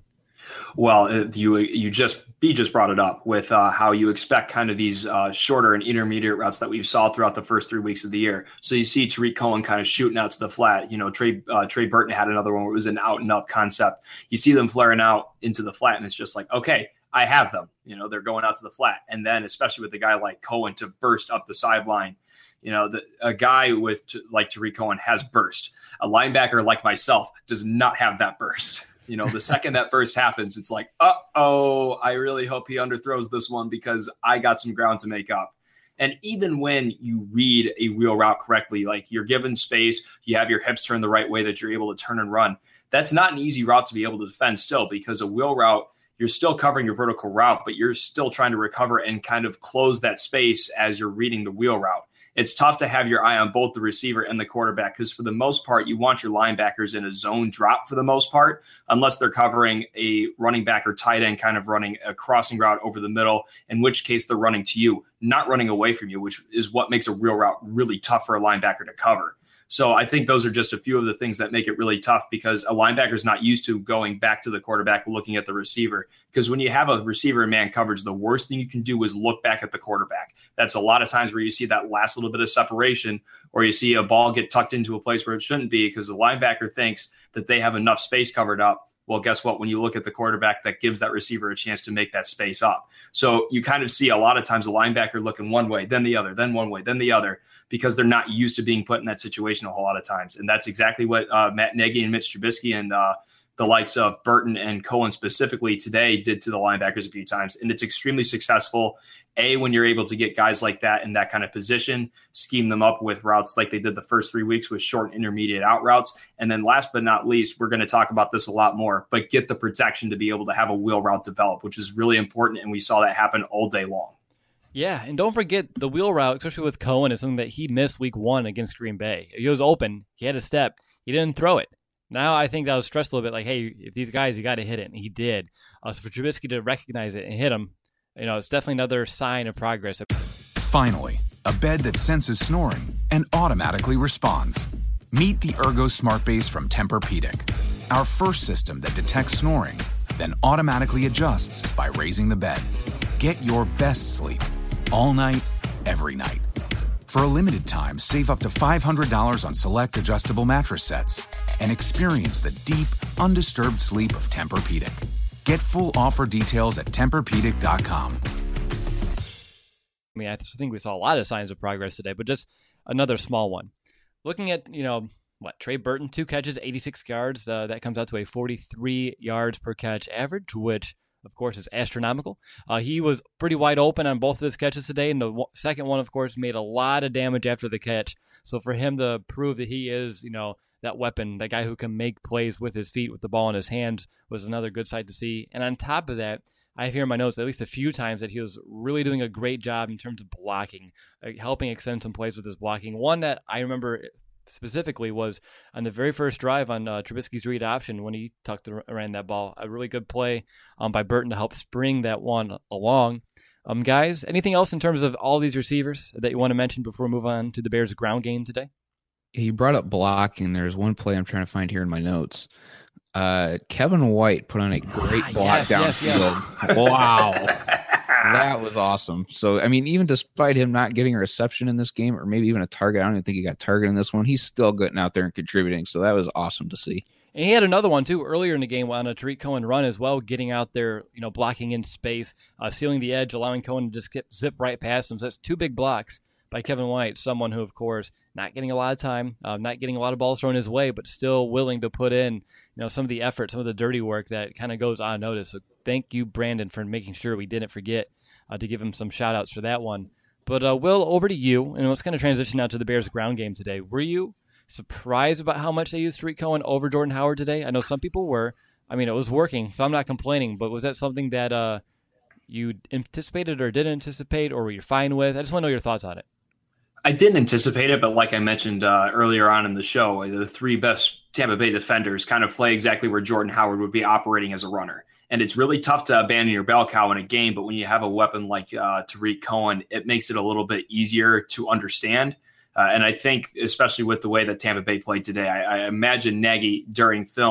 Well, you you just B just brought it up with uh, how you expect kind of these uh, shorter and intermediate routes that we saw throughout the first three weeks of the year. So you see Tarik Cohen kind of shooting out to the flat. You know, Trey uh, Trey Burton had another one where it was an out and up concept. You see them flaring out into the flat, and it's just like, okay, I have them. You know, they're going out to the flat, and then especially with a guy like Cohen to burst up the sideline. You know, the, a guy with like Tarik Cohen has burst. A linebacker like myself does not have that burst. You know, the second that burst happens, it's like, uh-oh, I really hope he underthrows this one because I got some ground to make up. And even when you read a wheel route correctly, like you're given space, you have your hips turned the right way that you're able to turn and run. That's not an easy route to be able to defend still, because a wheel route, you're still covering your vertical route, but you're still trying to recover and kind of close that space as you're reading the wheel route. It's tough to have your eye on both the receiver and the quarterback because for the most part, you want your linebackers in a zone drop for the most part, unless they're covering a running back or tight end kind of running a crossing route over the middle, in which case they're running to you, not running away from you, which is what makes a real route really tough for a linebacker to cover. So I think those are just a few of the things that make it really tough because a linebacker is not used to going back to the quarterback, looking at the receiver. Because when you have a receiver in man coverage, the worst thing you can do is look back at the quarterback. That's a lot of times where you see that last little bit of separation, or you see a ball get tucked into a place where it shouldn't be because the linebacker thinks that they have enough space covered up. Well, guess what? When you look at the quarterback, that gives that receiver a chance to make that space up. So you kind of see a lot of times a linebacker looking one way, then the other, then one way, then the other, because they're not used to being put in that situation a whole lot of times. And that's exactly what uh, Matt Nagy and Mitch Trubisky and uh, the likes of Burton and Cohen specifically today did to the linebackers a few times. And it's extremely successful. A, when you're able to get guys like that in that kind of position, scheme them up with routes like they did the first three weeks with short and intermediate out routes. And then last but not least, we're going to talk about this a lot more, but get the protection to be able to have a wheel route develop, which is really important. And we saw that happen all day long. Yeah, and don't forget the wheel route, especially with Cohen, is something that he missed week one against Green Bay. He was open. He had a step. He didn't throw it. Now I think that was stressed a little bit, like, hey, if these guys, you got to hit it. And he did. Uh, so for Trubisky to recognize it and hit him, you know, it's definitely another sign of progress. Finally, a bed that senses snoring and automatically responds. Meet the Ergo Smart Base from Tempur-Pedic, our first system that detects snoring, then automatically adjusts by raising the bed. Get your best sleep all night, every night. For a limited time, save up to five hundred dollars on select adjustable mattress sets and experience the deep, undisturbed sleep of Tempur-Pedic. Get full offer details at Tempur Pedic dot com. I mean, I think we saw a lot of signs of progress today, but just another small one. Looking at, you know, what, Trey Burton, two catches, eighty-six yards. Uh, that comes out to a forty-three yards per catch average, which, of course, is astronomical. Uh, he was pretty wide open on both of his catches today, and the w- second one, of course, made a lot of damage after the catch. So for him to prove that he is, you know, that weapon, that guy who can make plays with his feet, with the ball in his hands, was another good sight to see. And on top of that, I have here in my notes at least a few times that he was really doing a great job in terms of blocking, uh, helping extend some plays with his blocking. One that I remember specifically was on the very first drive on uh, Trubisky's read option when he tucked around that ball. A really good play um, by Burton to help spring that one along. Um, guys, anything else in terms of all these receivers that you want to mention before we move on to the Bears' ground game today? You brought up blocking. There's one play I'm trying to find here in my notes. Uh, Kevin White put on a great ah, block yes, downfield. yes, yes. Wow. That was awesome. So, I mean, even despite him not getting a reception in this game, or maybe even a target, I don't even think he got targeted in this one, he's still getting out there and contributing. So that was awesome to see. And he had another one, too, earlier in the game on a Tarik Cohen run as well, getting out there, you know, blocking in space, uh, sealing the edge, allowing Cohen to just get, zip right past him. So that's two big blocks by Kevin White, someone who, of course, not getting a lot of time, uh, not getting a lot of balls thrown his way, but still willing to put in, you know, some of the effort, some of the dirty work that kind of goes unnoticed. So thank you, Brandon, for making sure we didn't forget uh, to give him some shout-outs for that one. But, uh, Will, over to you, and let's kind of transition now to the Bears' ground game today. Were you surprised about how much they used Tarik Cohen over Jordan Howard today? I know some people were. I mean, it was working, so I'm not complaining, but was that something that uh, you anticipated or didn't anticipate, or were you fine with? I just want to know your thoughts on it. I didn't anticipate it, but like I mentioned uh, earlier on in the show, the three best Tampa Bay defenders kind of play exactly where Jordan Howard would be operating as a runner. And it's really tough to abandon your bell cow in a game, but when you have a weapon like uh, Tarik Cohen, it makes it a little bit easier to understand. Uh, and I think, especially with the way that Tampa Bay played today, I, I imagine Nagy during film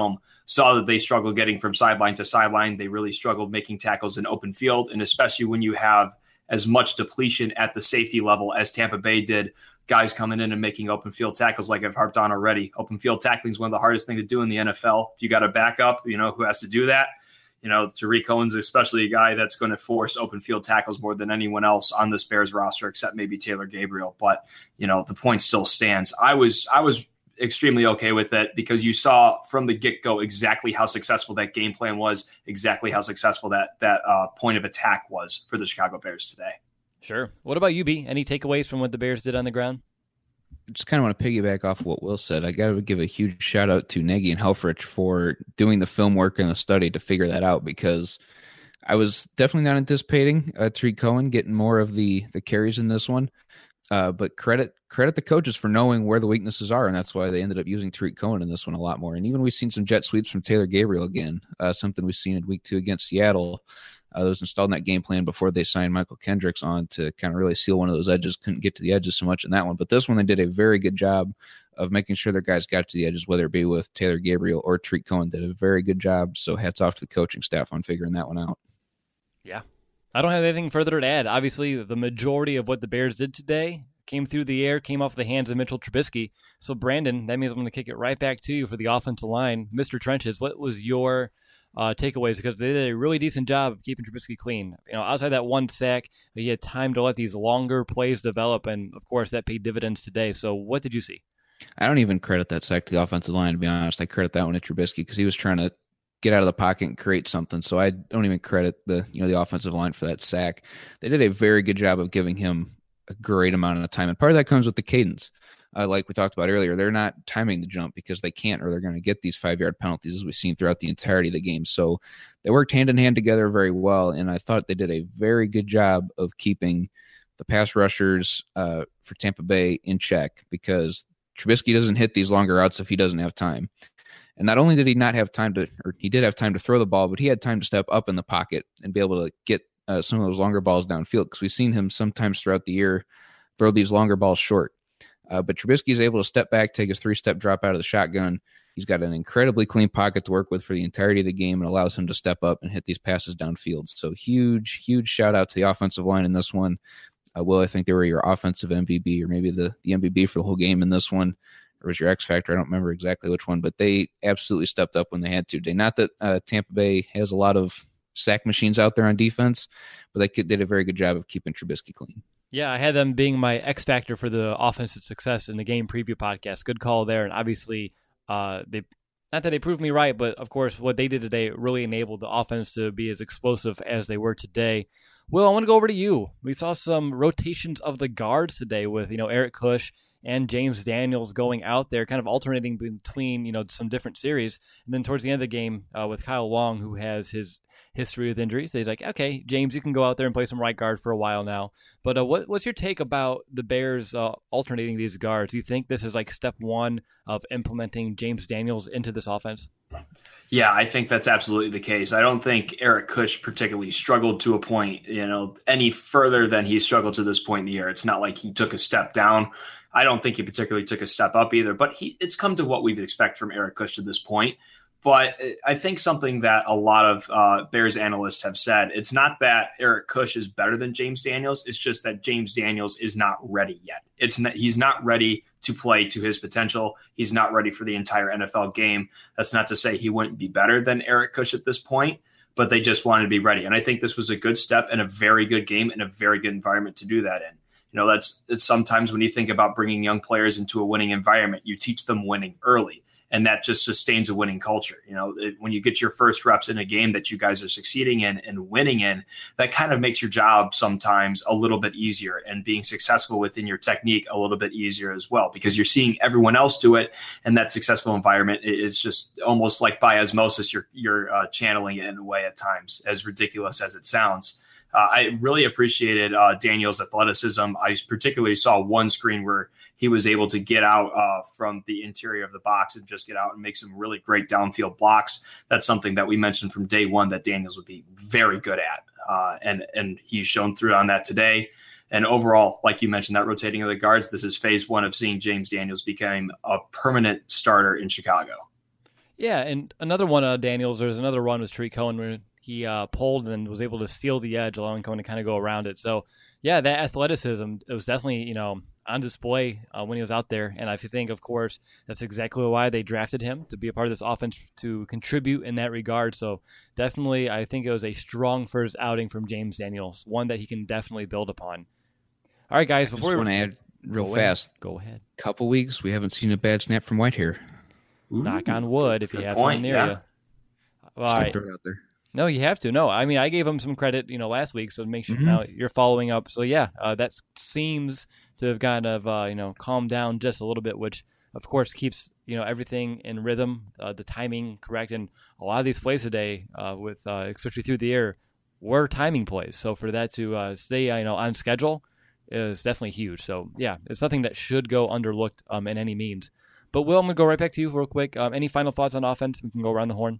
saw that they struggled getting from sideline to sideline. They really struggled making tackles in open field, and especially when you have as much depletion at the safety level as Tampa Bay did, guys coming in and making open field tackles like I've harped on already. Open field tackling is one of the hardest things to do in the N F L. If you got a backup, you know, who has to do that? You know, Tariq Cohen's especially a guy that's going to force open field tackles more than anyone else on this Bears roster, except maybe Taylor Gabriel. But, you know, the point still stands. I was I was extremely okay with it because you saw from the get-go exactly how successful that game plan was, exactly how successful that that uh, point of attack was for the Chicago Bears today. Sure. What about you, B? Any takeaways from what the Bears did on the ground? Just kind of want to piggyback off what Will said. I got to give a huge shout out to Nagy and Helfrich for doing the film work and the study to figure that out, because I was definitely not anticipating uh, Tariq Cohen getting more of the the carries in this one. Uh, but credit credit the coaches for knowing where the weaknesses are, and that's why they ended up using Tariq Cohen in this one a lot more. And even we've seen some jet sweeps from Taylor Gabriel again, uh, something we've seen in week two against Seattle. Uh, that was installed in that game plan before they signed Michael Kendricks on to kind of really seal one of those edges. Couldn't get to the edges so much in that one. But this one, they did a very good job of making sure their guys got to the edges, whether it be with Taylor Gabriel or Tariq Cohen. Did a very good job. So hats off to the coaching staff on figuring that one out. Yeah. I don't have anything further to add. Obviously, the majority of what the Bears did today came through the air, came off the hands of Mitchell Trubisky. So, Brandon, that means I'm going to kick it right back to you for the offensive line. Mister Trenches, what was your Uh, takeaways, because they did a really decent job of keeping Trubisky clean. You know, outside that one sack, he had time to let these longer plays develop, and of course that paid dividends today. So what did you see? I don't even credit that sack to the offensive line, to be honest. I credit that one to Trubisky because he was trying to get out of the pocket and create something. So I don't even credit the you know the offensive line for that sack. They did a very good job of giving him a great amount of time, and part of that comes with the cadence. Uh, like we talked about earlier, they're not timing the jump because they can't, or they're going to get these five-yard penalties as we've seen throughout the entirety of the game. So they worked hand-in-hand together very well, and I thought they did a very good job of keeping the pass rushers uh, for Tampa Bay in check, because Trubisky doesn't hit these longer routes if he doesn't have time. And not only did he not have time to, or he did have time to throw the ball, but he had time to step up in the pocket and be able to get uh, some of those longer balls downfield, because we've seen him sometimes throughout the year throw these longer balls short. Uh, but Trubisky is able to step back, take his three-step drop out of the shotgun. He's got an incredibly clean pocket to work with for the entirety of the game, and allows him to step up and hit these passes downfield. So huge, huge shout-out to the offensive line in this one. Uh, Will, I think they were your offensive M V P, or maybe the, the M V P for the whole game in this one. Or was your X Factor? I don't remember exactly which one, but they absolutely stepped up when they had to. They, not that uh, Tampa Bay has a lot of sack machines out there on defense, but they could, did a very good job of keeping Trubisky clean. Yeah, I had them being my X factor for the offensive success in the game preview podcast. Good call there. And obviously, uh, they not that they proved me right, but of course, what they did today really enabled the offense to be as explosive as they were today. Will, I want to go over to you. We saw some rotations of the guards today with, you know, Eric Kush and James Daniels going out there, kind of alternating between, you know, some different series. And then towards the end of the game uh, with Kyle Long, who has his history with injuries, they're like, okay, James, you can go out there and play some right guard for a while now. But uh, what, what's your take about the Bears uh, alternating these guards? Do you think this is like step one of implementing James Daniels into this offense? Yeah, I think that's absolutely the case. I don't think Eric Kush particularly struggled to a point, you know, any further than he struggled to this point in the year. It's not like he took a step down. I don't think he particularly took a step up either, but he it's come to what we'd expect from Eric Kush to this point. But I think something that a lot of uh, Bears analysts have said, it's not that Eric Kush is better than James Daniels. It's just that James Daniels is not ready yet. It's not, he's not ready to play to his potential. He's not ready for the entire N F L game. That's not to say he wouldn't be better than Eric Kush at this point, but they just wanted to be ready. And I think this was a good step and a very good game and a very good environment to do that in. You know, that's it's sometimes when you think about bringing young players into a winning environment, you teach them winning early. And that just sustains a winning culture. You know, it, when you get your first reps in a game that you guys are succeeding in and winning in, that kind of makes your job sometimes a little bit easier, and being successful within your technique a little bit easier as well, because you're seeing everyone else do it. And that successful environment is just almost like by osmosis, you're, you're uh, channeling it in a way at times, as ridiculous as it sounds. Uh, I really appreciated uh, Daniel's athleticism. I particularly saw one screen where he was able to get out uh, from the interior of the box and just get out and make some really great downfield blocks. That's something that we mentioned from day one that Daniels would be very good at. Uh, and, and he's shown through on that today. And overall, like you mentioned, that rotating of the guards, this is phase one of seeing James Daniels become a permanent starter in Chicago. Yeah, and another one of Daniels, there's another run with Tariq Cohen where he uh, pulled and was able to steal the edge, allowing Cohen to kind of go around it. So, yeah, that athleticism, it was definitely, you know, on display uh, when he was out there. And I think, of course, that's exactly why they drafted him, to be a part of this offense, to contribute in that regard. So definitely, I think it was a strong first outing from James Daniels, one that he can definitely build upon. All right, guys, I before just we want to add real go fast. Ahead. Go ahead. Couple weeks, we haven't seen a bad snap from Whitehair. Ooh, Knock on wood if you have point, something near yeah. you. All Just right. throw it out there. No, you have to. No, I mean, I gave him some credit, you know, last week, so make sure Mhm. now you're following up. So, yeah, uh, that seems to have kind of, uh, you know, calmed down just a little bit, which, of course, keeps, you know, everything in rhythm, uh, the timing correct. And a lot of these plays today, uh, with uh, especially through the air, were timing plays. So for that to uh, stay, uh, you know, on schedule is definitely huge. So, yeah, it's something that should go underlooked um, in any means. But, Will, I'm going to go right back to you real quick. Um, any final thoughts on offense? We can go around the horn.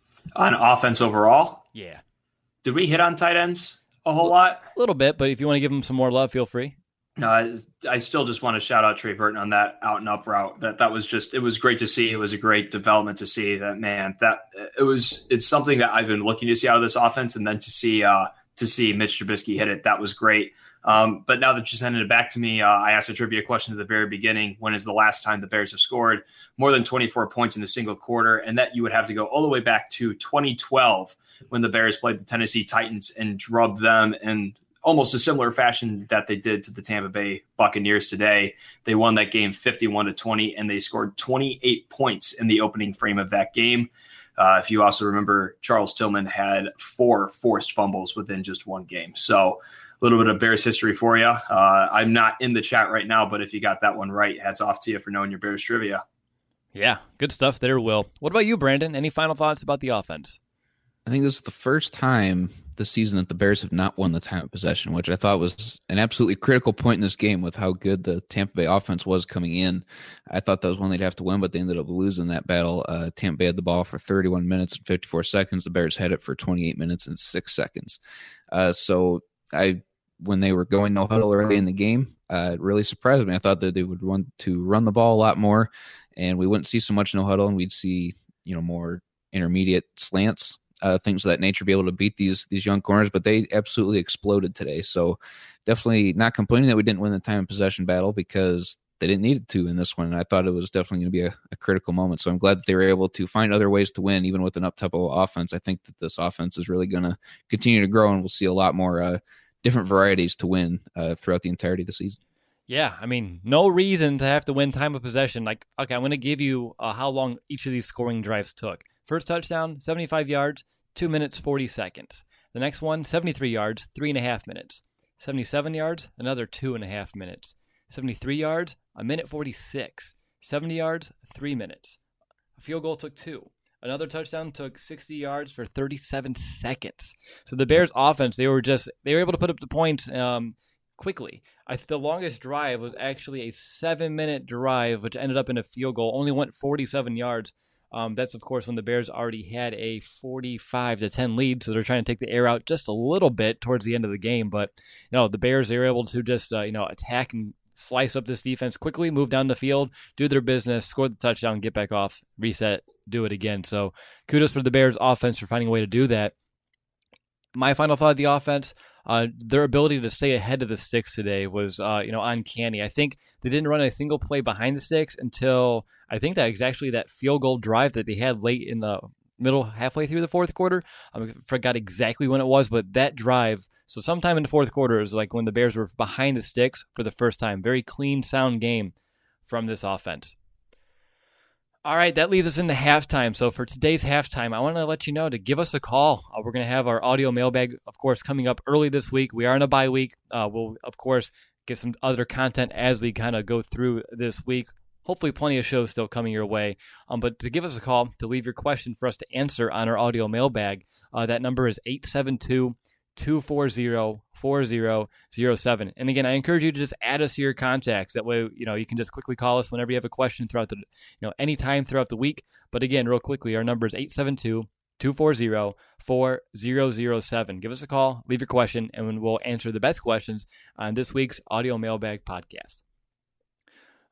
On offense overall, Yeah. did we hit on tight ends a whole lot? A little bit, but if you want to give them some more love, feel free. No, I, I still just want to shout out Trey Burton on that out and up route. That that was just, it was great to see. It was a great development to see that, man, that it was, it's something that I've been looking to see out of this offense. And then to see, uh, to see Mitch Trubisky hit it, that was great. Um, but now that you sending it back to me, uh, I asked a trivia question at the very beginning. When is the last time the Bears have scored more than twenty-four points in a single quarter? And that you would have to go all the way back to twenty twelve when the Bears played the Tennessee Titans and drubbed them in almost a similar fashion that they did to the Tampa Bay Buccaneers today. They won that game fifty-one to twenty, and they scored twenty-eight points in the opening frame of that game. Uh, if you also remember, Charles Tillman had four forced fumbles within just one game. So a little bit of Bears history for you. Uh, I'm not in the chat right now, but if you got that one right, hats off to you for knowing your Bears trivia. Yeah, good stuff there, Will. What about you, Brandon? Any final thoughts about the offense? I think this is the first time this season that the Bears have not won the time of possession, which I thought was an absolutely critical point in this game with how good the Tampa Bay offense was coming in. I thought that was one they'd have to win, but they ended up losing that battle. Uh, Tampa Bay had the ball for thirty-one minutes and fifty-four seconds. The Bears had it for twenty-eight minutes and six seconds. Uh, so I, when they were going no huddle early in the game, uh, it really surprised me. I thought that they would want to run the ball a lot more, and we wouldn't see so much no huddle, and we'd see, you know, more intermediate slants. Uh, things of that nature, be able to beat these these young corners, but they absolutely exploded today. So definitely not complaining that we didn't win the time of possession battle, because they didn't need to in this one. And I thought it was definitely going to be a, a critical moment. So I'm glad that they were able to find other ways to win, even with an up-tempo offense. I think that this offense is really going to continue to grow, and we'll see a lot more uh, different varieties to win uh, throughout the entirety of the season. Yeah, I mean, no reason to have to win time of possession. Like, okay, I'm going to give you uh, how long each of these scoring drives took. First touchdown, seventy-five yards, two minutes, forty seconds. The next one, seventy-three yards, three and a half minutes. seventy-seven yards, another two and a half minutes. seventy-three yards, a minute forty-six. seventy yards, three minutes. A field goal took two. Another touchdown took sixty yards for thirty-seven seconds. So the Bears offense, they were just, they were able to put up the points um, quickly. I, the longest drive was actually a seven-minute drive, which ended up in a field goal, only went forty-seven yards. Um, that's, of course, when the Bears already had a forty-five to ten lead, so they're trying to take the air out just a little bit towards the end of the game. But, you know, the Bears, they were able to just, uh, you know, attack and slice up this defense quickly, move down the field, do their business, score the touchdown, get back off, reset, do it again. So kudos for the Bears offense for finding a way to do that. My final thought of the offense, uh, their ability to stay ahead of the sticks today was, uh, you know, uncanny. I think they didn't run a single play behind the sticks until I think that was actually that field goal drive that they had late in the middle, halfway through the fourth quarter. I forgot exactly when it was, but that drive, so sometime in the fourth quarter, is like when the Bears were behind the sticks for the first time. Very clean, sound game from this offense. All right, that leads us into halftime. So for today's halftime, I want to let you know to give us a call. Uh, we're going to have our audio mailbag, of course, coming up early this week. We are in a bye week. Uh, we'll, of course, get some other content as we kind of go through this week. Hopefully plenty of shows still coming your way. Um, but to give us a call, to leave your question for us to answer on our audio mailbag, uh, that number is eight seven two, two four zero, four zero zero seven. And again, I encourage you to just add us to your contacts. That way, you know, you can just quickly call us whenever you have a question throughout the, you know, anytime throughout the week. But again, real quickly, our number is eight seven two, two four zero, four zero zero seven. Give us a call, leave your question, and we'll answer the best questions on this week's Audio Mailbag podcast.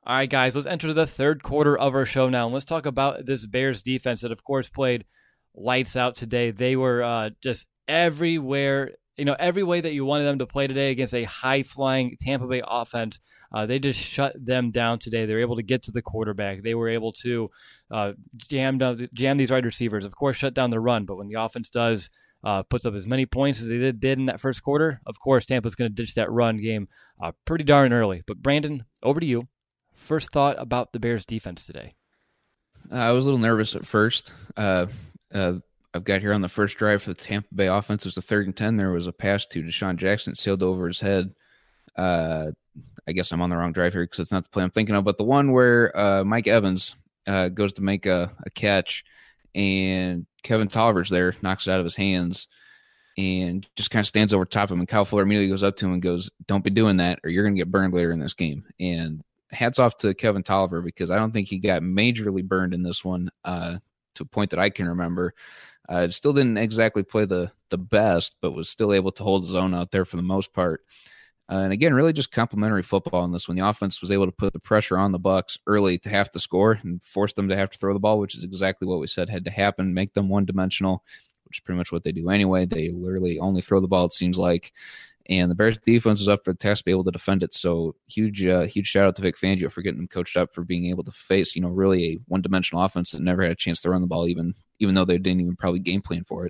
All right, guys, let's enter the third quarter of our show now. And let's talk about this Bears defense that, of course, played lights out today. They were uh, just everywhere, you know, every way that you wanted them to play today against a high-flying Tampa Bay offense. Uh, they just shut them down today. They were able to get to the quarterback. They were able to uh, jam down, jam these wide receivers, of course, shut down the run. But when the offense does uh, puts up as many points as they did, did in that first quarter, of course, Tampa's going to ditch that run game uh, pretty darn early. But, Brandon, over to you. First thought about the Bears defense today. Uh, I was a little nervous at first. Uh, uh, I've got here on the first drive for the Tampa Bay offense. It was the third and ten. There was a pass to Deshaun Jackson sailed over his head. Uh, I guess I'm on the wrong drive here because it's not the play I'm thinking of, but the one where uh, Mike Evans uh, goes to make a, a catch and Kevin Tolliver's there, knocks it out of his hands and just kind of stands over top of him. And Kyle Fuller immediately goes up to him and goes, "Don't be doing that or you're going to get burned later in this game." And hats off to Kevin Tolliver because I don't think he got majorly burned in this one uh, to a point that I can remember. Uh, still didn't exactly play the the best, but was still able to hold his own out there for the most part. Uh, and again, really just complimentary football in this one. The offense was able to put the pressure on the Bucs early to have to score and force them to have to throw the ball, which is exactly what we said had to happen, make them one-dimensional, which is pretty much what they do anyway. They literally only throw the ball, it seems like. And the Bears defense was up for the task to be able to defend it. So huge, uh, huge shout out to Vic Fangio for getting them coached up for being able to face, you know, really a one-dimensional offense that never had a chance to run the ball, even even though they didn't even probably game plan for it.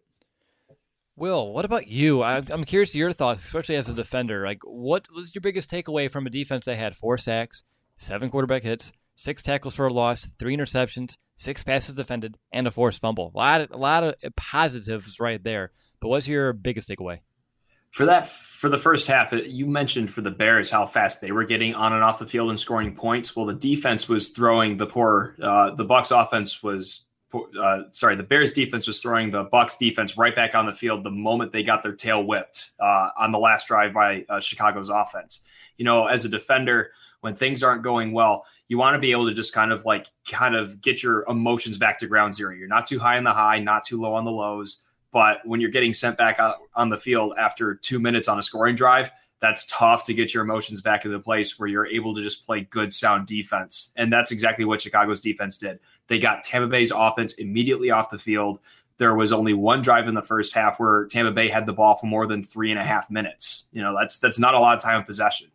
Will, what about you? I'm curious to your thoughts, especially as a defender. Like, what was your biggest takeaway from a defense that had four sacks, seven quarterback hits, six tackles for a loss, three interceptions, six passes defended, and a forced fumble? A lot of, a lot of positives right there. But what's your biggest takeaway? For that, for the first half, you mentioned for the Bears how fast they were getting on and off the field and scoring points. Well, the defense was throwing the poor. Uh, the Bucs offense was, uh, sorry, the Bears defense was throwing the Bucs defense right back on the field the moment they got their tail whipped uh, on the last drive by uh, Chicago's offense. You know, as a defender, when things aren't going well, you want to be able to just kind of like kind of get your emotions back to ground zero. You're not too high on the high, not too low on the lows. But when you're getting sent back out on the field after two minutes on a scoring drive, that's tough to get your emotions back into the place where you're able to just play good, sound defense. And that's exactly what Chicago's defense did. They got Tampa Bay's offense immediately off the field. There was only one drive in the first half where Tampa Bay had the ball for more than three and a half minutes. You know, that's that's not a lot of time of possession.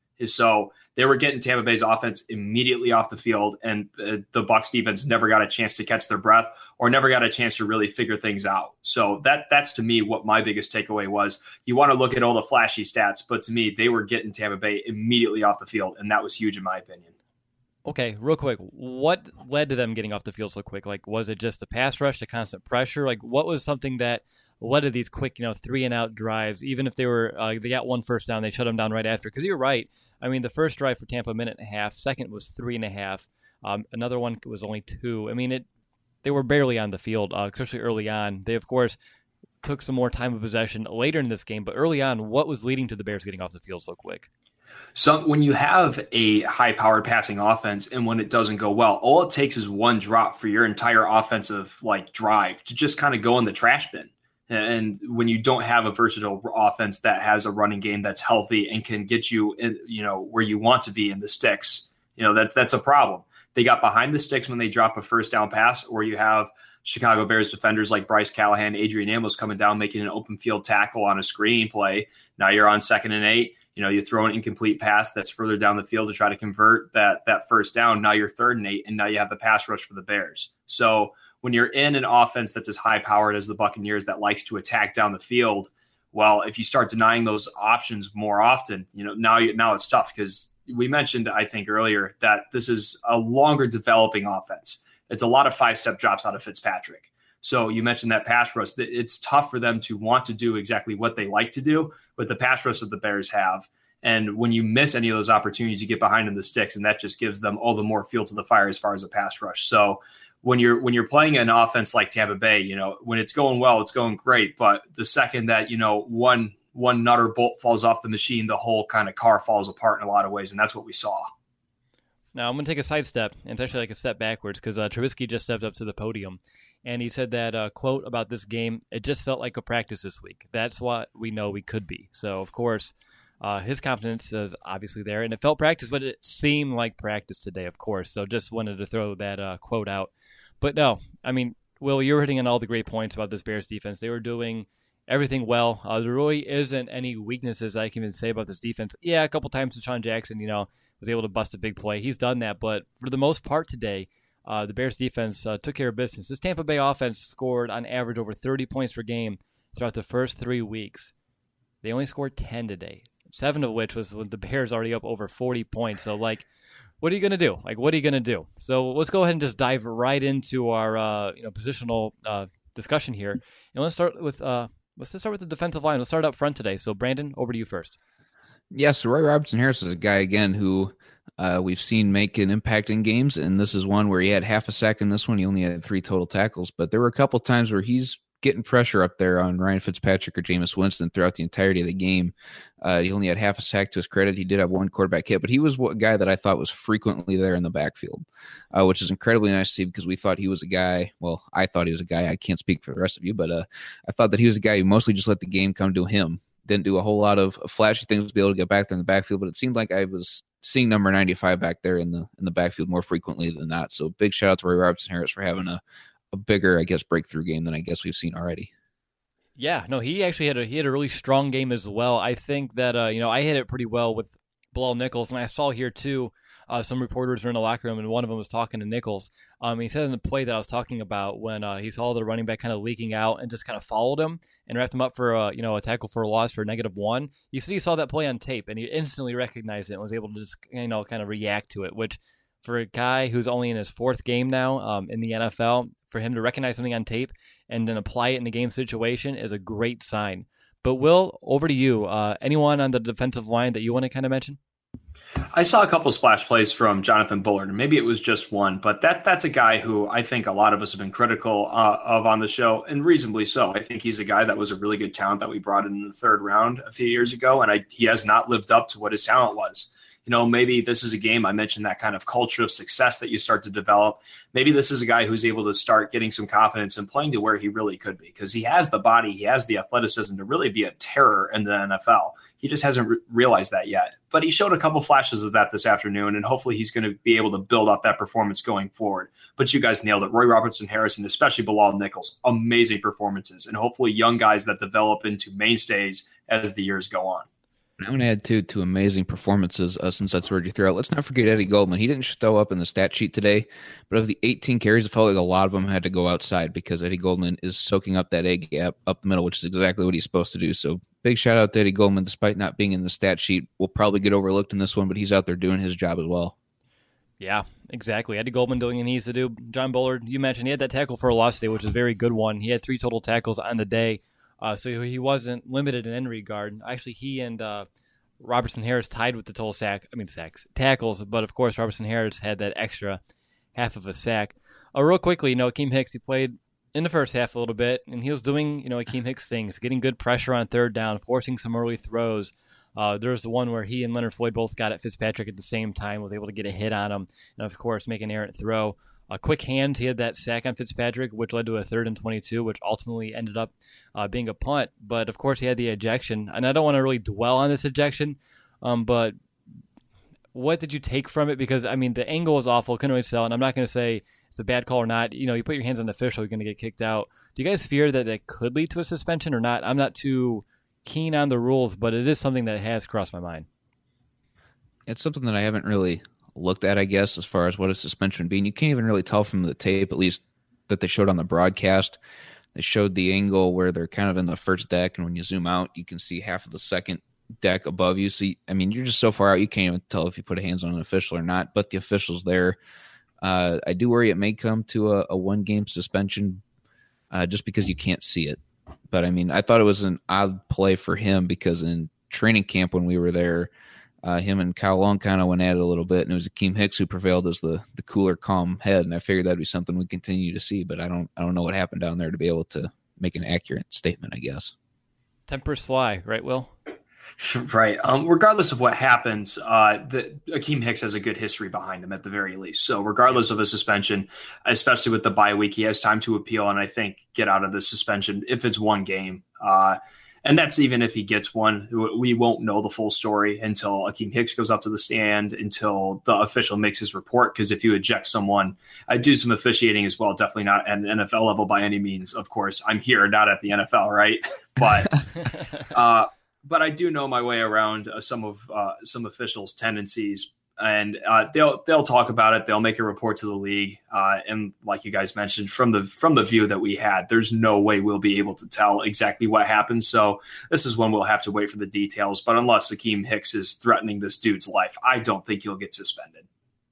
So they were getting Tampa Bay's offense immediately off the field, and uh, the Bucs defense never got a chance to catch their breath or never got a chance to really figure things out. So that that's to me what my biggest takeaway was. You want to look at all the flashy stats, but to me, they were getting Tampa Bay immediately off the field, and that was huge in my opinion. Okay, real quick, what led to them getting off the field so quick? Like, was it just the pass rush, the constant pressure? Like, what was something that led to these quick, you know, three and out drives? Even if they were, uh, they got one first down, they shut them down right after. Because you're right. I mean, the first drive for Tampa, a minute and a half. Second was three and a half. Um, another one was only two. I mean, it. They were barely on the field, uh, especially early on. They, of course, took some more time of possession later in this game. But early on, what was leading to the Bears getting off the field so quick? So when you have a high-powered passing offense and when it doesn't go well, all it takes is one drop for your entire offensive like drive to just kind of go in the trash bin. And when you don't have a versatile offense that has a running game that's healthy and can get you, in, you know, where you want to be in the sticks, you know, that's that's a problem. They got behind the sticks when they drop a first down pass, or you have Chicago Bears defenders like Bryce Callahan, Adrian Amos coming down, making an open field tackle on a screen play. Now you're on second and eight. You know, you throw an incomplete pass that's further down the field to try to convert that that first down. Now you're third and eight, and now you have the pass rush for the Bears. So when you're in an offense that's as high-powered as the Buccaneers that likes to attack down the field, well, if you start denying those options more often, you know, now you, now it's tough because we mentioned, I think earlier, that this is a longer developing offense. It's a lot of five-step drops out of Fitzpatrick. So you mentioned that pass rush. It's tough for them to want to do exactly what they like to do with the pass rush that the Bears have. And when you miss any of those opportunities, you get behind in the sticks, and that just gives them all the more fuel to the fire as far as a pass rush. So when you're when you're playing an offense like Tampa Bay, you know, when it's going well, it's going great. But the second that, you know, one one nut or bolt falls off the machine, the whole kind of car falls apart in a lot of ways, and that's what we saw. Now I'm going to take a side step, and it's actually like a step backwards because uh, Trubisky just stepped up to the podium. And he said that uh, quote about this game, it just felt like a practice this week. That's what we know we could be. So, of course, Uh, his confidence is obviously there, and it felt practice, but it seemed like practice today, of course. So just wanted to throw that uh, quote out. But no, I mean, Will, you were hitting on all the great points about this Bears defense. They were doing everything well. Uh, there really isn't any weaknesses I can even say about this defense. Yeah, a couple times Deshaun Jackson, you know, was able to bust a big play. He's done that, but for the most part today, uh, the Bears defense uh, took care of business. This Tampa Bay offense scored on average over thirty points per game throughout the first three weeks. They only scored ten today. Seven of which was when the Bears already up over forty points. So, like, what are you going to do? Like, what are you going to do? So let's go ahead and just dive right into our, uh, you know, positional uh, discussion here. And let's start with uh, let's just start with the defensive line. Let's start up front today. So, Brandon, over to you first. Yeah, so Roy Robertson Harris is a guy, again, who uh, we've seen make an impact in games, and this is one where he had half a sack in this one. He only had three total tackles, but there were a couple times where he's getting pressure up there on Ryan Fitzpatrick or Jameis Winston throughout the entirety of the game. Uh, he only had half a sack to his credit. He did have one quarterback hit, but he was a guy that I thought was frequently there in the backfield, uh, which is incredibly nice to see because we thought he was a guy, well, I thought he was a guy, I can't speak for the rest of you, but uh, I thought that he was a guy who mostly just let the game come to him. Didn't do a whole lot of flashy things to be able to get back there in the backfield, but it seemed like I was seeing number ninety-five back there in the in the backfield more frequently than not. So big shout out to Roy Robertson Harris for having a, a bigger, I guess, breakthrough game than I guess we've seen already. Yeah, no, he actually had a he had a really strong game as well. I think that uh, you know I hit it pretty well with Bilal Nichols, and I saw here too. Uh, some reporters were in the locker room, and one of them was talking to Nichols. Um, he said in the play that I was talking about when uh, he saw the running back kind of leaking out and just kind of followed him and wrapped him up for a, you know a tackle for a loss for a negative one. He said he saw that play on tape and he instantly recognized it and was able to just you know kind of react to it. Which for a guy who's only in his fourth game now um, in the N F L, for him to recognize something on tape and then apply it in the game situation is a great sign. But Will, over to you. Uh, anyone on the defensive line that you want to kind of mention? I saw a couple splash plays from Jonathan Bullard, and maybe it was just one, but that that's a guy who I think a lot of us have been critical uh, of on the show, and reasonably so. I think he's a guy that was a really good talent that we brought in, in the third round a few years ago, and I, he has not lived up to what his talent was. You know, maybe this is a game, I mentioned that kind of culture of success that you start to develop. Maybe this is a guy who's able to start getting some confidence and playing to where he really could be, because he has the body, he has the athleticism to really be a terror in the N F L. He just hasn't re- realized that yet. But he showed a couple flashes of that this afternoon, and hopefully he's going to be able to build off that performance going forward. But you guys nailed it. Roy Robertson Harris, and especially Bilal Nichols, amazing performances, and hopefully young guys that develop into mainstays as the years go on. I'm going to add two two amazing performances uh, since that's where you threw out. Let's not forget Eddie Goldman. He didn't show up in the stat sheet today, but of the eighteen carries, it felt like a lot of them had to go outside because Eddie Goldman is soaking up that A gap up the middle, which is exactly what he's supposed to do. So big shout out to Eddie Goldman, despite not being in the stat sheet. Will probably get overlooked in this one, but he's out there doing his job as well. Yeah, exactly. Eddie Goldman doing what he needs to do. John Bullard, you mentioned he had that tackle for a loss today, which is a very good one. He had three total tackles on the day, uh, so he wasn't limited in any regard. Actually, he and uh, Robertson Harris tied with the total sack. I mean sacks, tackles, but of course Robertson Harris had that extra half of a sack. Uh, real quickly, you know, Akeem Hicks, he played in the first half a little bit, and he was doing, you know, Akeem Hicks things, getting good pressure on third down, forcing some early throws. Uh, there was the one where he and Leonard Floyd both got at Fitzpatrick at the same time, was able to get a hit on him, and of course make an errant throw. A quick hand, he had that sack on Fitzpatrick, which led to a third and twenty-two, which ultimately ended up uh, being a punt. But of course, he had the ejection, and I don't want to really dwell on this ejection. Um, but what did you take from it? Because, I mean, the angle is awful. Couldn't really tell. And I'm not going to say it's a bad call or not. You know, you put your hands on the official, you're going to get kicked out. Do you guys fear that that could lead to a suspension or not? I'm not too keen on the rules, but it is something that has crossed my mind. It's something that I haven't really looked at, I guess, as far as what a suspension would be. And you can't even really tell from the tape, at least that they showed on the broadcast. They showed the angle where they're kind of in the first deck, and when you zoom out, you can see half of the second deck above you. So, I mean, you're just so far out, you can't even tell if you put a hands on an official or not, but the official's there. Uh, I do worry it may come to a, a one-game suspension uh, just because you can't see it. But, I mean, I thought it was an odd play for him because in training camp when we were there, uh, him and Kyle Long kind of went at it a little bit, and it was Akeem Hicks who prevailed as the the cooler, calm head, and I figured that'd be something we continue to see, but I don't I don't know what happened down there to be able to make an accurate statement, I guess. Temper Sly, right, Will? Right. Um, regardless of what happens, uh, the, Akeem Hicks has a good history behind him at the very least. So regardless of a suspension, especially with the bye week, he has time to appeal and I think get out of the suspension if it's one game. Uh, And that's even if he gets one. We won't know the full story until Akiem Hicks goes up to the stand, until the official makes his report. Because if you eject someone, I do some officiating as well. Definitely not at an N F L level by any means. Of course, I'm here, not at the N F L, right? But uh, but I do know my way around uh, some of uh, some officials' tendencies. And uh, they'll they'll talk about it. They'll make a report to the league. Uh, and like you guys mentioned, from the from the view that we had, there's no way we'll be able to tell exactly what happened. So this is when we'll have to wait for the details. But unless Akiem Hicks is threatening this dude's life, I don't think he'll get suspended.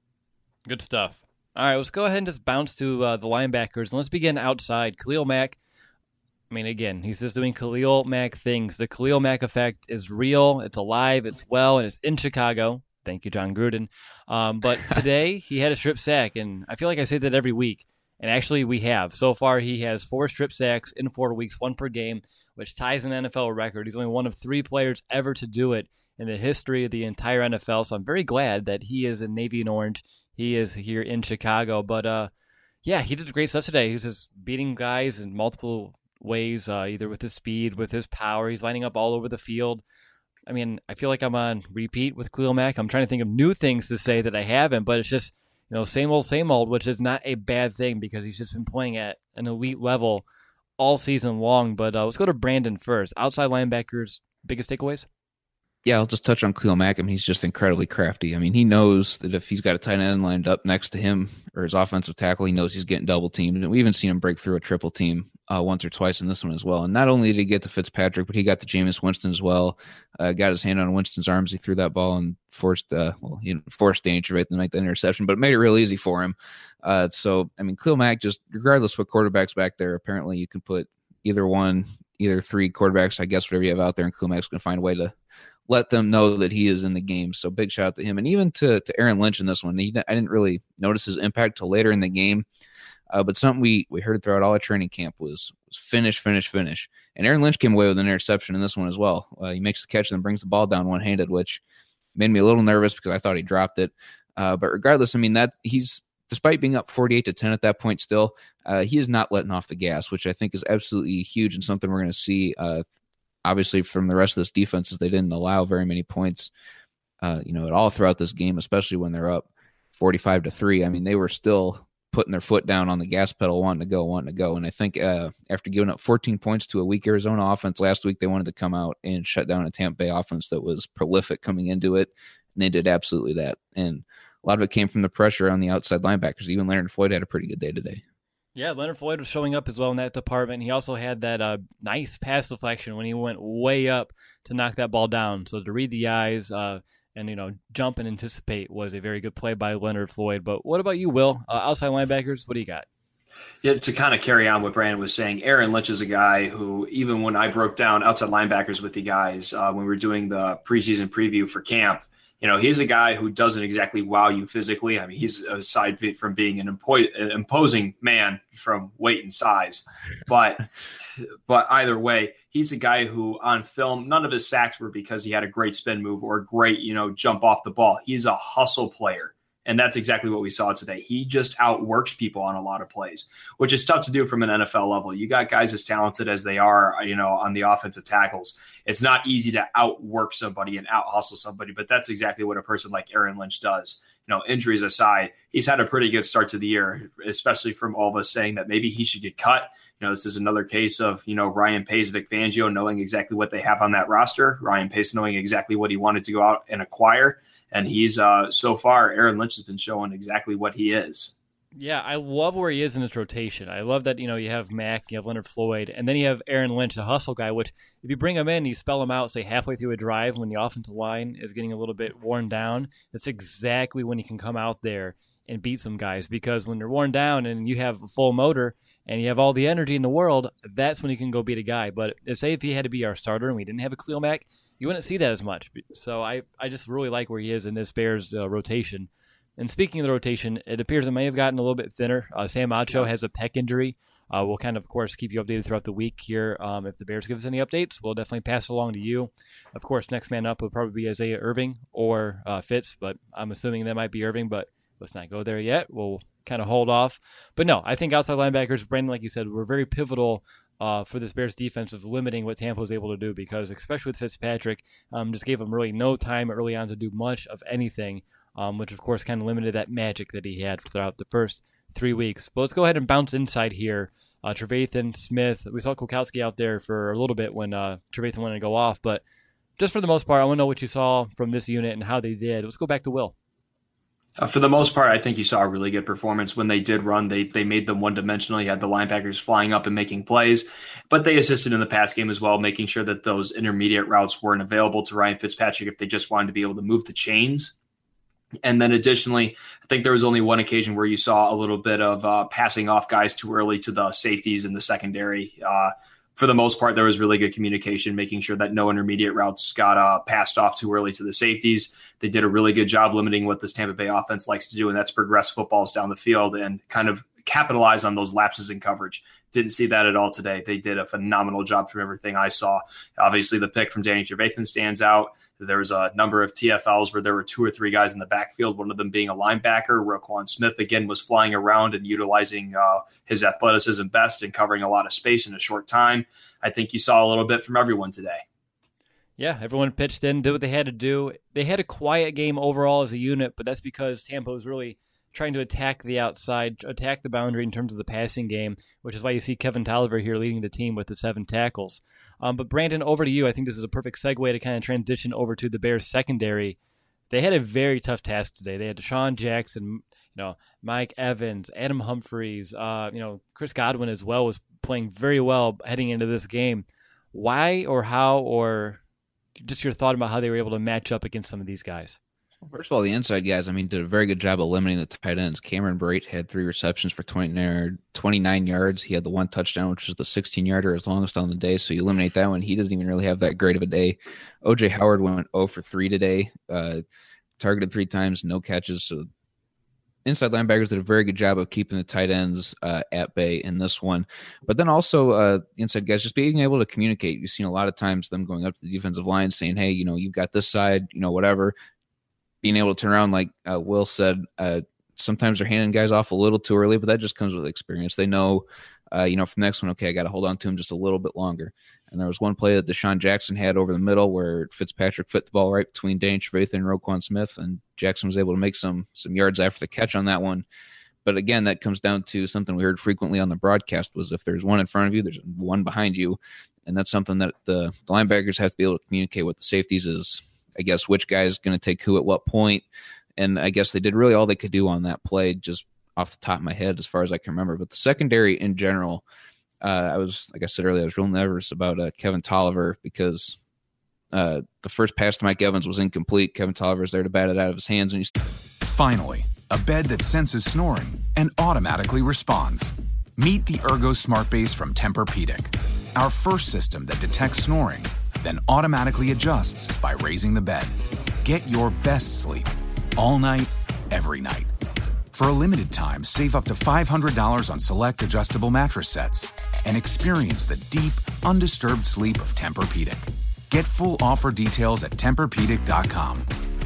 Good stuff. All right, let's go ahead and just bounce to uh, the linebackers. And let's begin outside. Khalil Mack. I mean, again, he's just doing Khalil Mack things. The Khalil Mack effect is real. It's alive. It's well, and it's in Chicago. Thank you, John Gruden. Um, but today he had a strip sack, and I feel like I say that every week. And actually, we have. So far, he has four strip sacks in four weeks, one per game, which ties an N F L record. He's only one of three players ever to do it in the history of the entire N F L. So I'm very glad that he is in Navy and Orange. He is here in Chicago. But, uh, yeah, he did great stuff today. He was just beating guys in multiple ways, uh, either with his speed, with his power. He's lining up all over the field. I mean, I feel like I'm on repeat with Khalil Mack. I'm trying to think of new things to say that I haven't, but it's just, you know, same old, same old, which is not a bad thing because he's just been playing at an elite level all season long. But uh, let's go to Brandon first. Outside linebackers, biggest takeaways? Yeah, I'll just touch on Khalil Mack. I mean, he's just incredibly crafty. I mean, he knows that if he's got a tight end lined up next to him or his offensive tackle, he knows he's getting double teamed. And we even seen him break through a triple team uh, once or twice in this one as well. And not only did he get to Fitzpatrick, but he got to Jameis Winston as well. Uh, got his hand on Winston's arms. He threw that ball and forced, uh, well, he forced danger right to make the interception, but it made it real easy for him. Uh, so, I mean, Khalil Mack, just regardless what quarterback's back there, apparently you can put either one, either three quarterbacks, I guess, whatever you have out there, and Khalil Mack's going to find a way to let them know that he is in the game. So big shout out to him. And even to, to Aaron Lynch in this one. He, I didn't really notice his impact till later in the game. Uh, but something we, we heard throughout all of training camp was, was finish, finish, finish. And Aaron Lynch came away with an interception in this one as well. Uh, he makes the catch and then brings the ball down one-handed, which made me a little nervous because I thought he dropped it. Uh, but regardless, I mean, that he's, despite being up forty-eight to ten at that point still, uh, he is not letting off the gas, which I think is absolutely huge and something we're going to see uh, obviously from the rest of this defense, is they didn't allow very many points, uh, you know, at all throughout this game, especially when they're up forty-five to three. I mean, they were still putting their foot down on the gas pedal, wanting to go, wanting to go. And I think uh, after giving up fourteen points to a weak Arizona offense last week, they wanted to come out and shut down a Tampa Bay offense that was prolific coming into it. And they did absolutely that. And a lot of it came from the pressure on the outside linebackers. Even Leonard Floyd had a pretty good day today. Yeah, Leonard Floyd was showing up as well in that department. He also had that uh, nice pass deflection when he went way up to knock that ball down. So to read the eyes uh, and, you know, jump and anticipate was a very good play by Leonard Floyd. But what about you, Will? Uh, outside linebackers, what do you got? Yeah, to kind of carry on what Brandon was saying, Aaron Lynch is a guy who, even when I broke down outside linebackers with the guys, uh, when we were doing the preseason preview for camp, you know, he's a guy who doesn't exactly wow you physically. I mean, he's aside from being an, impo- an imposing man from weight and size, but but either way, he's a guy who on film, none of his sacks were because he had a great spin move or a great, you know, jump off the ball. He's a hustle player. And that's exactly what we saw today. He just outworks people on a lot of plays, which is tough to do from an N F L level. You got guys as talented as they are, you know, on the offensive tackles. It's not easy to outwork somebody and out hustle somebody, but that's exactly what a person like Aaron Lynch does. You know, injuries aside, he's had a pretty good start to the year, especially from all of us saying that maybe he should get cut. You know, this is another case of, you know, Ryan Pace, Vic Fangio knowing exactly what they have on that roster. Ryan Pace knowing exactly what he wanted to go out and acquire. And he's, uh, so far, Aaron Lynch has been showing exactly what he is. Yeah, I love where he is in his rotation. I love that, you know, you have Mack, you have Leonard Floyd, and then you have Aaron Lynch, the hustle guy, which if you bring him in, you spell him out, say, halfway through a drive when the offensive line is getting a little bit worn down, that's exactly when you can come out there and beat some guys. Because when they're worn down and you have a full motor and you have all the energy in the world, that's when you can go beat a guy. But say if he had to be our starter and we didn't have a Khalil Mack, you wouldn't see that as much. So I, I just really like where he is in this Bears uh, rotation. And speaking of the rotation, it appears it may have gotten a little bit thinner. Uh, Sam Acho has a pec injury. Uh, we'll kind of, of course, keep you updated throughout the week here. Um, if the Bears give us any updates, we'll definitely pass it along to you. Of course, next man up will probably be Isaiah Irving or uh, Fitz, but I'm assuming that might be Irving, but let's not go there yet. We'll kind of hold off. But no, I think outside linebackers, Brandon, like you said, were very pivotal uh, for this Bears defense of limiting what Tampa was able to do, because especially with Fitzpatrick, um, just gave him really no time early on to do much of anything, um, which of course kind of limited that magic that he had throughout the first three weeks. But let's go ahead and bounce inside here. Uh, Trevathan, Smith, we saw Kulkowski out there for a little bit when uh, Trevathan wanted to go off, but just for the most part, I want to know what you saw from this unit and how they did. Let's go back to Will. Uh, for the most part, I think you saw a really good performance. When they did run, they they made them one-dimensional. You had the linebackers flying up and making plays, but they assisted in the pass game as well, making sure that those intermediate routes weren't available to Ryan Fitzpatrick if they just wanted to be able to move the chains. And then additionally, I think there was only one occasion where you saw a little bit of uh, passing off guys too early to the safeties in the secondary. Uh, for the most part, there was really good communication, making sure that no intermediate routes got uh, passed off too early to the safeties. They did a really good job limiting what this Tampa Bay offense likes to do, and that's progress footballs down the field and kind of capitalize on those lapses in coverage. Didn't see that at all today. They did a phenomenal job from everything I saw. Obviously, the pick from Danny Trevathan stands out. There was a number of T F Ls where there were two or three guys in the backfield, one of them being a linebacker. Roquan Smith, again, was flying around and utilizing uh, his athleticism best and covering a lot of space in a short time. I think you saw a little bit from everyone today. Yeah, everyone pitched in, did what they had to do. They had a quiet game overall as a unit, but that's because Tampa was really trying to attack the outside, attack the boundary in terms of the passing game, which is why you see Kevin Tolliver here leading the team with the seven tackles. Um, but Brandon, over to you. I think this is a perfect segue to kind of transition over to the Bears secondary. They had a very tough task today. They had Deshaun Jackson, you know, Mike Evans, Adam Humphries, uh, you know, Chris Godwin as well was playing very well heading into this game. Why or how, or just your thought about how they were able to match up against some of these guys? First of all, the inside guys, I mean, did a very good job of limiting the tight ends. Cameron Brate had three receptions for twenty-nine yards. He had the one touchdown, which was the sixteen-yarder, his longest on the day, so you eliminate that one. He doesn't even really have that great of a day. O J Howard went zero for three today, uh, targeted three times, no catches. So inside linebackers did a very good job of keeping the tight ends uh, at bay in this one. But then also uh, inside guys just being able to communicate. You've seen a lot of times them going up to the defensive line saying, hey, you know, you've got this side, you know, whatever. Being able to turn around, like uh, Will said, uh, sometimes they're handing guys off a little too early, but that just comes with experience. They know, uh, you know, from the next one, okay, I got to hold on to him just a little bit longer. And there was one play that Deshaun Jackson had over the middle where Fitzpatrick fit the ball right between Danny Trevathan and Roquan Smith, and Jackson was able to make some some yards after the catch on that one. But again, that comes down to something we heard frequently on the broadcast was if there's one in front of you, there's one behind you. And that's something that the, the linebackers have to be able to communicate with the safeties is, I guess, which guy is going to take who at what point. And I guess they did really all they could do on that play, just off the top of my head, as far as I can remember. But the secondary in general, uh, I was, like I said earlier, I was real nervous about uh, Kevin Tolliver because uh, the first pass to Mike Evans was incomplete. Kevin Tolliver was there to bat it out of his hands. And he's Finally, a bed that senses snoring and automatically responds. Meet the Ergo Smart Base from Tempur-Pedic, our first system that detects snoring, then automatically adjusts by raising the bed. Get your best sleep all night, every night. For a limited time, save up to five hundred dollars on select adjustable mattress sets and experience the deep, undisturbed sleep of Tempur-Pedic. Get full offer details at Tempur Pedic dot com.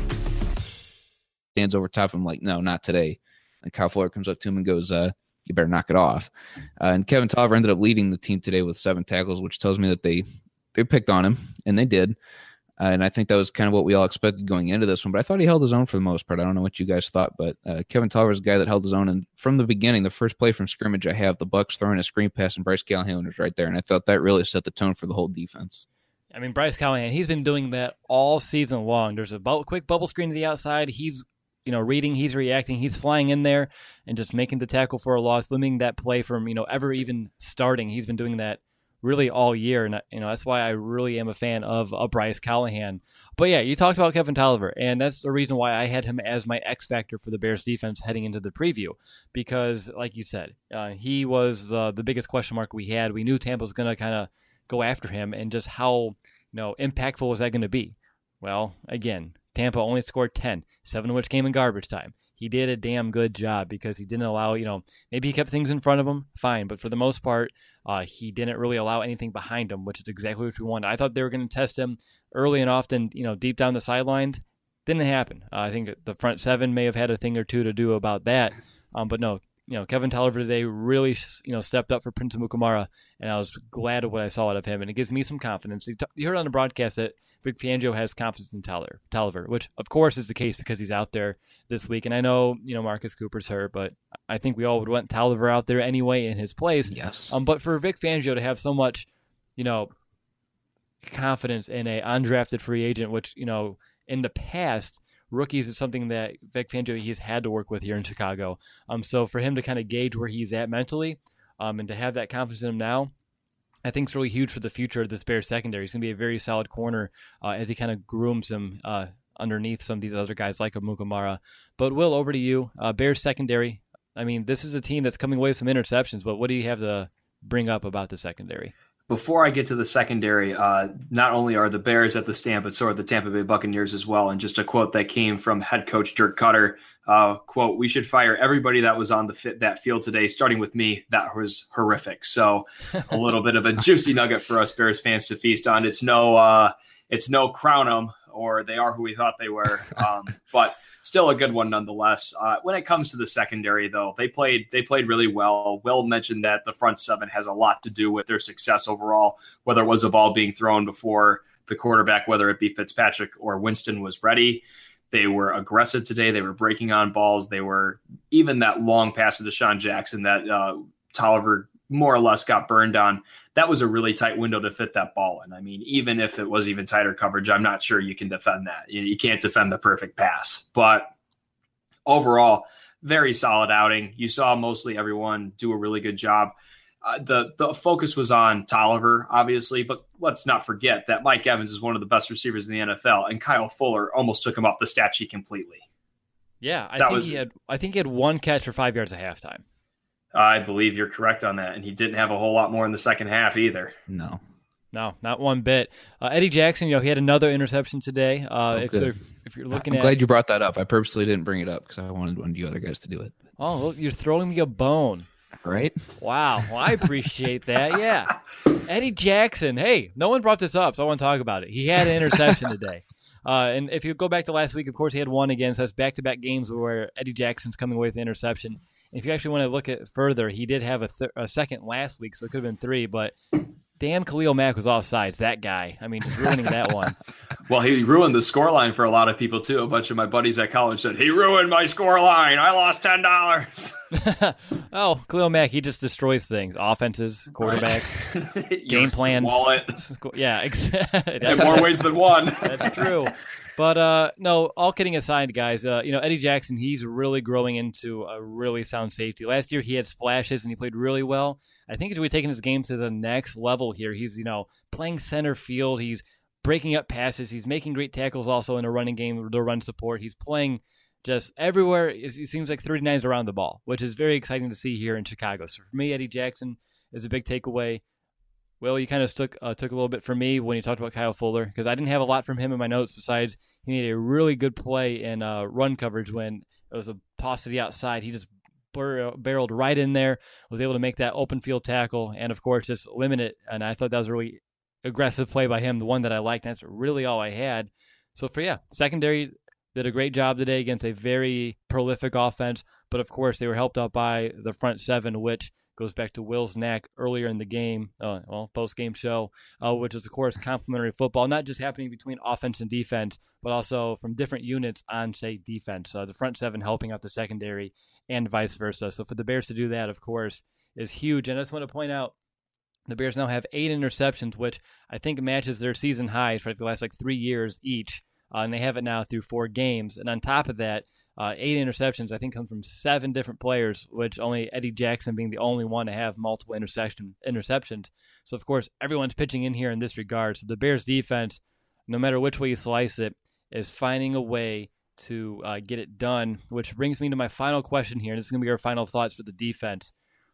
Stands over top of him like, no, not today. And Kyle Fuller comes up to him and goes, uh, you better knock it off. Uh, and Kevin Tolliver ended up leading the team today with seven tackles, which tells me that they They picked on him, and they did. Uh, and I think that was kind of what we all expected going into this one. But I thought he held his own for the most part. I don't know what you guys thought, but uh, Kevin Tolliver is a guy that held his own. And from the beginning, the first play from scrimmage, I have the Bucs throwing a screen pass, and Bryce Callahan was right there. And I thought that really set the tone for the whole defense. I mean, Bryce Callahan, he's been doing that all season long. There's a bu- quick bubble screen to the outside. He's you know, reading, he's reacting, he's flying in there and just making the tackle for a loss, limiting that play from, you know, ever even starting. He's been doing that really all year, and you know that's why I really am a fan of uh, Bryce Callahan. But yeah, you talked about Kevin Tolliver, and that's the reason why I had him as my X factor for the Bears defense heading into the preview, because like you said, uh, he was the the biggest question mark we had. We knew Tampa was going to kind of go after him, and just how you know impactful was that going to be? Well, again, Tampa only scored ten, seven of which came in garbage time. He did a damn good job because he didn't allow, you know, maybe he kept things in front of him, fine. But for the most part, uh, he didn't really allow anything behind him, which is exactly what we wanted. I thought they were going to test him early and often, you know, deep down the sidelines. Didn't happen. Uh, I think the front seven may have had a thing or two to do about that. Um, but no, you know, Kevin Tolliver today really, you know, stepped up for Prince Amukamara, and I was glad of what I saw out of him, and it gives me some confidence. You, t- you heard on the broadcast that Vic Fangio has confidence in Tolliver, Tolliver, which of course is the case because he's out there this week, and I know, you know, Marcus Cooper's hurt, but I think we all would want Tolliver out there anyway in his place. Yes. Um, but for Vic Fangio to have so much, you know, confidence in a undrafted free agent, which, you know, in the past, rookies is something that Vic Fangio he's had to work with here in Chicago. Um, so for him to kind of gauge where he's at mentally, um, and to have that confidence in him now, I think it's really huge for the future of this Bears secondary. He's going to be a very solid corner uh, as he kind of grooms him uh, underneath some of these other guys like Amukamara. But Will, over to you. Uh, Bears secondary. I mean, this is a team that's coming away with some interceptions, but what do you have to bring up about the secondary? Before I get to the secondary, uh, not only are the Bears at the stand, but so are the Tampa Bay Buccaneers as well. And just a quote that came from head coach Dirk Cutter, uh, quote, "We should fire everybody that was on the fit, that field today, starting with me. That was horrific." So a little bit of a juicy nugget for us Bears fans to feast on. It's no, uh, it's no crown 'em, or they are who we thought they were. Um, but still a good one nonetheless. Uh, when it comes to the secondary, though, they played they played really well. Will mentioned that the front seven has a lot to do with their success overall, whether it was a ball being thrown before the quarterback, whether it be Fitzpatrick or Winston, was ready. They were aggressive today. They were breaking on balls. They were even that long pass to Deshaun Jackson that uh, Tolliver more or less got burned on. That was a really tight window to fit that ball in. I mean, even if it was even tighter coverage, I'm not sure you can defend that. You, you can't defend the perfect pass. But overall, very solid outing. You saw mostly everyone do a really good job. Uh, the the focus was on Tolliver, obviously, but let's not forget that Mike Evans is one of the best receivers in the N F L, and Kyle Fuller almost took him off the stat sheet completely. Yeah, I that think was, he had. I think he had one catch for five yards at halftime. I believe you're correct on that, and he didn't have a whole lot more in the second half either. No. No, not one bit. Uh, Eddie Jackson, you know, he had another interception today. Uh, Oh, if, good. so if, if you're looking I'm at, glad you brought that up. I purposely didn't bring it up because I wanted one of you other guys to do it. oh, look, you're throwing me a bone. Right? Wow, well, I appreciate that. Yeah, Eddie Jackson. Hey, no one brought this up, so I want to talk about it. He had an interception today. Uh, and if you go back to last week, of course, he had one again. So that's back-to-back games where Eddie Jackson's coming away with the interception. And if you actually want to look at it further, he did have a, th- a second last week, so it could have been three. But damn, Khalil Mack was offsides. That guy. I mean, just ruining that one. Well, he ruined the scoreline for a lot of people, too. A bunch of my buddies at college said, he ruined my scoreline. I lost ten dollars. Oh, Khalil Mack, he just destroys things. Offenses, quarterbacks, Right. game plans. Wallet. Yeah, exactly. In more ways than one. That's true. But uh, no, all kidding aside, guys, uh, you know, Eddie Jackson, he's really growing into a really sound safety. Last year he had splashes and he played really well. I think as we're taking his game to the next level here, he's, you know, playing center field. He's breaking up passes. He's making great tackles also in a running game, the run support. He's playing just everywhere. It seems like thirty-nine is around the ball, which is very exciting to see here in Chicago. So for me, Eddie Jackson is a big takeaway. Well, you kind of took uh, took a little bit from me when you talked about Kyle Fuller because I didn't have a lot from him in my notes besides he made a really good play in uh, run coverage when it was a toss to the outside. He just bur- barreled right in there, was able to make that open field tackle, and, of course, just limit it. And I thought that was a really aggressive play by him, the one that I liked. That's really all I had. So, for, yeah, secondary did a great job today against a very prolific offense, but, of course, they were helped out by the front seven, which goes back to Will's knack earlier in the game, uh, well, post-game show, uh, which is, of course, complementary football, not just happening between offense and defense, but also from different units on, say, defense. Uh, the front seven helping out the secondary and vice versa. So for the Bears to do that, of course, is huge. And I just want to point out, the Bears now have eight interceptions, which I think matches their season highs for the last, like, three years each. Uh, and they have it now through four games. And on top of that, uh, eight interceptions, I think, come from seven different players, which only Eddie Jackson being the only one to have multiple interception, interceptions. So, of course, everyone's pitching in here in this regard. So the Bears defense, no matter which way you slice it, is finding a way to uh, get it done, which brings me to my final question here. And this is going to be our final thoughts for the defense.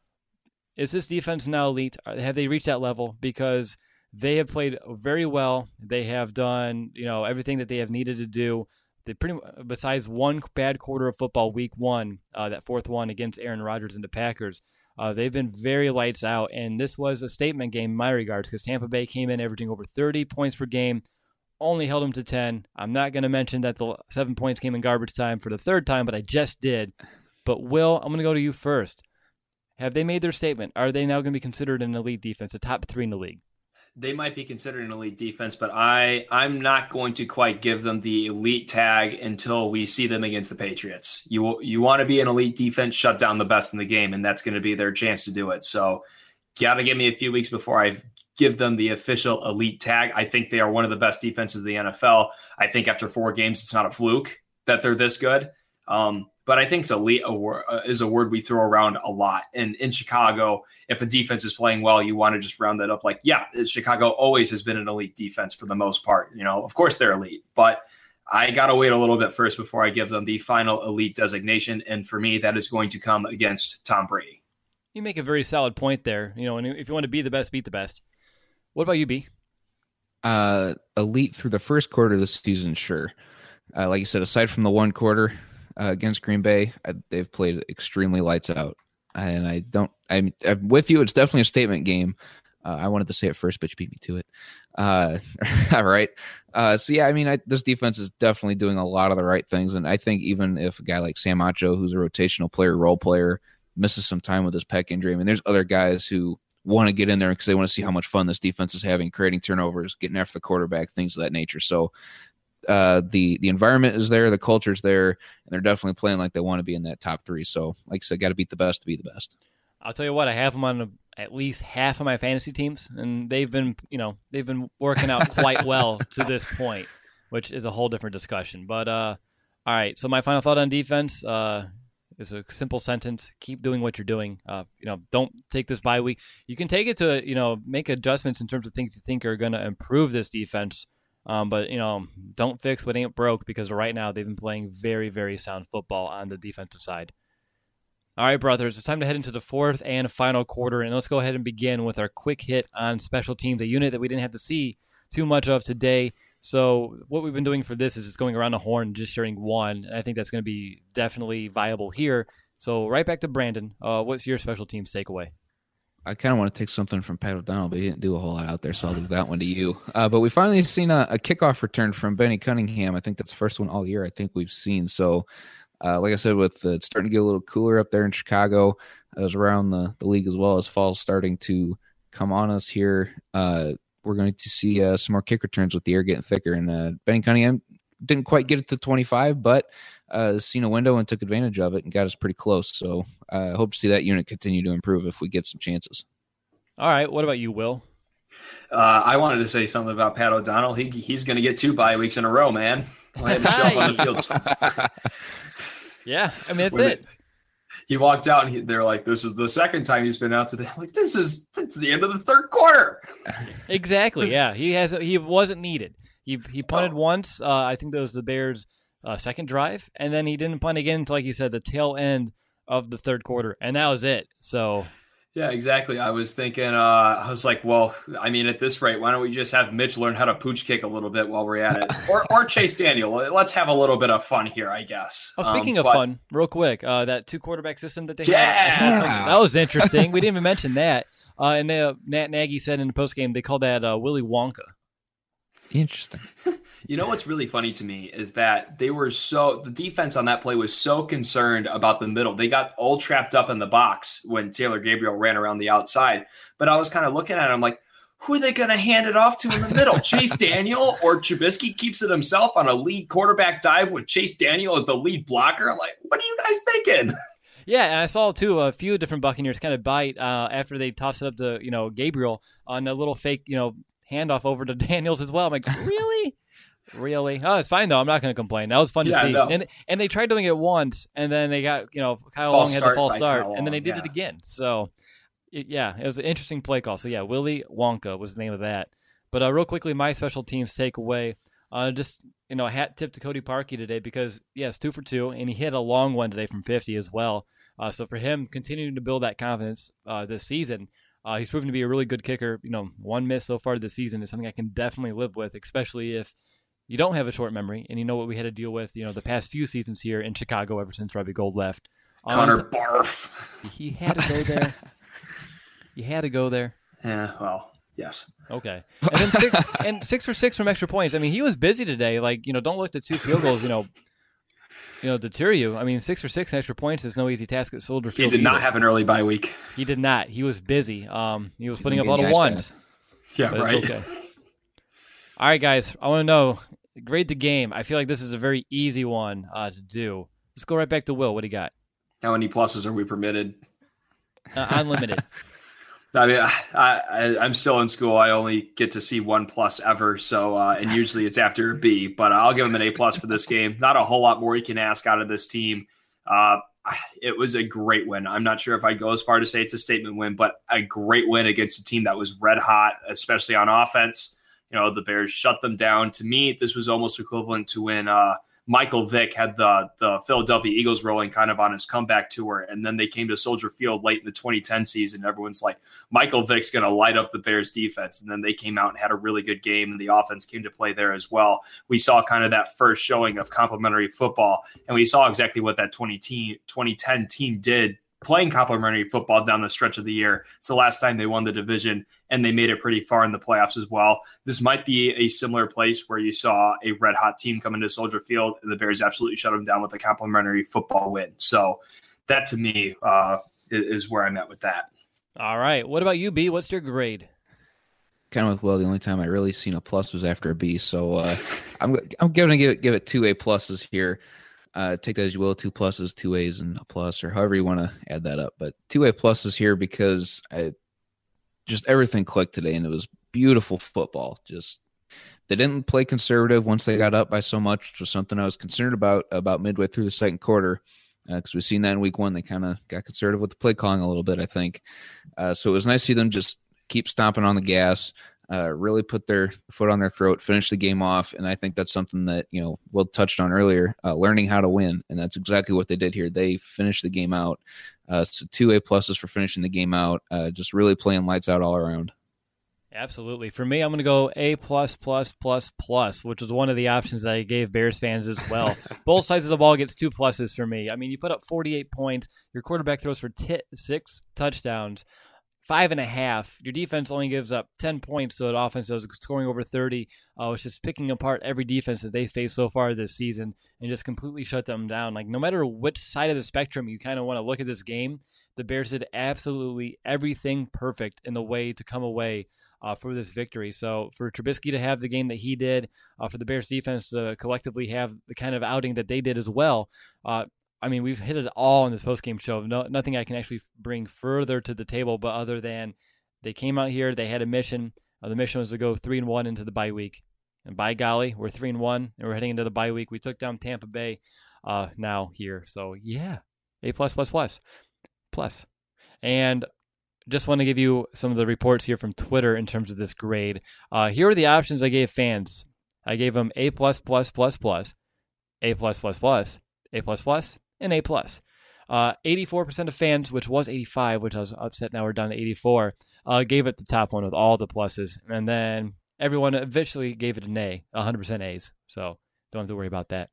Is this defense now elite? Have they reached that level? Because they have played very well. They have done, you know, everything that they have needed to do. They pretty besides one bad quarter of football, week one, uh, that fourth one against Aaron Rodgers and the Packers, uh, they've been very lights out. And this was a statement game in my regards because Tampa Bay came in averaging over thirty points per game, only held them to ten. I'm not going to mention that the seven points came in garbage time for the third time, but I just did. But Will, I'm going to go to you first. Have they made their statement? Are they now going to be considered an elite defense, a top three in the league? They might be considered an elite defense, but I, I'm not going to quite give them the elite tag until we see them against the Patriots. You you want to be an elite defense, shut down the best in the game, and that's going to be their chance to do it. So got to give me a few weeks before I give them the official elite tag. I think they are one of the best defenses in the N F L. I think after four games, it's not a fluke that they're this good. Um, but I think elite is a word we throw around a lot. And in Chicago, if a defense is playing well, you want to just round that up like, yeah, Chicago always has been an elite defense for the most part. You know, of course they're elite, but I got to wait a little bit first before I give them the final elite designation. And for me, that is going to come against Tom Brady. You make a very solid point there. You know, and if you want to be the best, beat the best. What about you, B? Uh, elite through the first quarter of the season, sure. Uh, like you said, aside from the one quarter uh, against Green Bay, I, they've played extremely lights out. And I don't, I'm, I'm with you. It's definitely a statement game. Uh, I wanted to say it first, but you beat me to it. Uh, all right. Uh, so, yeah, I mean, I, this defense is definitely doing a lot of the right things. And I think even if a guy like Sam Acho, who's a rotational player, role player, misses some time with his pec injury, I mean, there's other guys who want to get in there because they want to see how much fun this defense is having, creating turnovers, getting after the quarterback, things of that nature. So uh, the the environment is there, the culture's there, and they're definitely playing like they want to be in that top three. So, like I said, got to beat the best to be the best. I'll tell you what, I have them on a, at least half of my fantasy teams, and they've been, you know, they've been working out quite well to this point, which is a whole different discussion. But uh, all right, so my final thought on defense. Uh, It's a simple sentence. Keep doing what you're doing. Uh, you know, don't take this bye week. You can take it to, you know, make adjustments in terms of things you think are going to improve this defense. Um, but, you know, don't fix what ain't broke, because right now they've been playing very, very sound football on the defensive side. All right, brothers, it's time to head into the fourth and final quarter, and let's go ahead and begin with our quick hit on special teams, a unit that we didn't have to see too much of today. So what we've been doing for this is just going around the horn, just sharing one, and I think that's going to be definitely viable here. So right back to Brandon. Uh, what's your special teams takeaway? I kind of want to take something from Pat O'Donnell, but he didn't do a whole lot out there, so I'll leave that one to you. Uh, but we finally seen a, a kickoff return from Benny Cunningham. I think that's the first one all year I think we've seen. So Uh, like I said, with uh, it's starting to get a little cooler up there in Chicago, uh, as around the, the league as well, as fall's starting to come on us here. Uh, we're going to see uh, some more kick returns with the air getting thicker. And uh, Benny Cunningham didn't quite get it to twenty-five, but uh, seen a window and took advantage of it and got us pretty close. So I uh, hope to see that unit continue to improve if we get some chances. All right. What about you, Will? Uh, I wanted to say something about Pat O'Donnell. He He's going to get two bye weeks in a row, man. I'll have him show up on the field. Yeah, I mean, that's when it. They, he walked out, and he, they're like, this is the second time he's been out today. I'm like, this is that's the end of the third quarter. Exactly, yeah. He has he wasn't needed. He he punted Oh. once. Uh, I think that was the Bears' uh, second drive, and then he didn't punt again until, like you said, the tail end of the third quarter, and that was it. So Yeah, exactly. I was thinking, uh, I was like, well, I mean, at this rate, why don't we just have Mitch learn how to pooch kick a little bit while we're at it? Or or Chase Daniel. Let's have a little bit of fun here, I guess. Oh, speaking um, of but, fun, real quick, uh, that two quarterback system that they Yeah! had, that was interesting. We didn't even mention that. Uh, and uh, Matt Nagy said in the postgame they called that uh, Willy Wonka. Interesting. You know what's really funny to me is that they were so the defense on that play was so concerned about the middle. They got all trapped up in the box when Taylor Gabriel ran around the outside. But I was kind of looking at it, I'm like, who are they going to hand it off to in the middle? Chase Daniel or Trubisky keeps it himself on a lead quarterback dive with Chase Daniel as the lead blocker? I'm like, what are you guys thinking? Yeah, and I saw too a few different Buccaneers kind of bite uh, after they tossed it up to you know Gabriel on a little fake you know handoff over to Daniels as well. I'm like, really? Really? Oh, it's fine though. I'm not going to complain. That was fun Yeah, to see. no. And and they tried doing it once, and then they got you know Kyle False Long had the start false by start, Kyle and then they Long, did yeah. it again. So it, yeah, it was an interesting play call. So yeah, Willy Wonka was the name of that. But uh, real quickly, my special teams takeaway. Uh, just you know, a hat tip to Cody Parkey today because yes, two for two, and he hit a long one today from fifty as well. Uh, so for him, continuing to build that confidence uh, this season. Uh, he's proven to be a really good kicker. You know, one miss so far this season is something I can definitely live with, especially if you don't have a short memory and you know what we had to deal with, you know, the past few seasons here in Chicago ever since Robbie Gould left. Connor Um, Barf. He had to go there. You had to go there. Yeah, well, yes. Okay. And then six and six for six from extra points. I mean, he was busy today. Like, you know, don't look at two field goals, you know. you know, deter you. I mean, six for six extra points is no easy task at Soldier Field. He did not either. have an early bye week. He did not. He was busy. Um, he was putting up a lot of ones. Yeah, right. Okay. All right, guys. I want to know, grade the game. I feel like this is a very easy one uh, to do. Let's go right back to Will. What do you got? How many pluses are we permitted? Uh, unlimited. I mean, I, I, I'm still in school. I only get to see one plus ever. So, uh, and usually it's after a B, but I'll give him an A plus for this game. Not a whole lot more you can ask out of this team. Uh, it was a great win. I'm not sure if I'd go as far to say it's a statement win, but a great win against a team that was red hot, especially on offense. You know, the Bears shut them down. To me, this was almost equivalent to when, uh, Michael Vick had the the Philadelphia Eagles rolling kind of on his comeback tour, and then they came to Soldier Field late in the twenty ten season. Everyone's like, Michael Vick's going to light up the Bears defense, and then they came out and had a really good game, and the offense came to play there as well. We saw kind of that first showing of complementary football, and we saw exactly what that twenty ten team did, playing complementary football down the stretch of the year. It's the last time they won the division, and they made it pretty far in the playoffs as well. This might be a similar place where you saw a red-hot team come into Soldier Field, and the Bears absolutely shut them down with a complementary football win. So that, to me, uh, is where I'm at with that. All right. What about you, B? What's your grade? Kind of with Will, the only time I really seen a plus was after a B. So uh, I'm I'm going to give it, give it two A pluses here. Uh, take that as you will, two pluses, two A's, and a plus, or however you want to add that up. But two A pluses here because I just everything clicked today, and it was beautiful football. Just they didn't play conservative once they got up by so much, which was something I was concerned about about midway through the second quarter, because uh, we've seen that in week one. They kind of got conservative with the play calling a little bit, I think. Uh, so it was nice to see them just keep stomping on the gas. Uh, really put their foot on their throat, finish the game off, and I think that's something that, you know, Will touched on earlier, uh, learning how to win, and that's exactly what they did here. They finished the game out. Uh, so two A pluses for finishing the game out, uh, just really playing lights out all around. Absolutely. For me, I'm going to go A plus plus plus plus, which was one of the options that I gave Bears fans as well. Both sides of the ball gets two pluses for me. I mean, you put up forty-eight points, your quarterback throws for t- six touchdowns. Five and a half. Your defense only gives up ten points to an offense that was scoring over thirty. Uh, was just picking apart every defense that they faced so far this season and just completely shut them down. Like, no matter which side of the spectrum you kind of want to look at this game, the Bears did absolutely everything perfect in the way to come away uh, for this victory. So for Trubisky to have the game that he did, uh, for the Bears defense to collectively have the kind of outing that they did as well, uh, I mean, we've hit it all in this post-game show. No, nothing I can actually bring further to the table, but other than they came out here, they had a mission. Uh, the mission was to go three and one into the bye week, and by golly, we're three and one, and we're heading into the bye week. We took down Tampa Bay uh, now here, so yeah, A plus plus plus plus. And just want to give you some of the reports here from Twitter in terms of this grade. Uh, here are the options I gave fans. I gave them A plus plus plus plus, A plus plus plus, A plus plus. And A plus. Uh, eighty-four percent of fans, which was eighty-five, which I was upset now we're down to eighty-four, uh, gave it the top one with all the pluses. And then everyone eventually gave it an A, one hundred percent A's. So don't have to worry about that.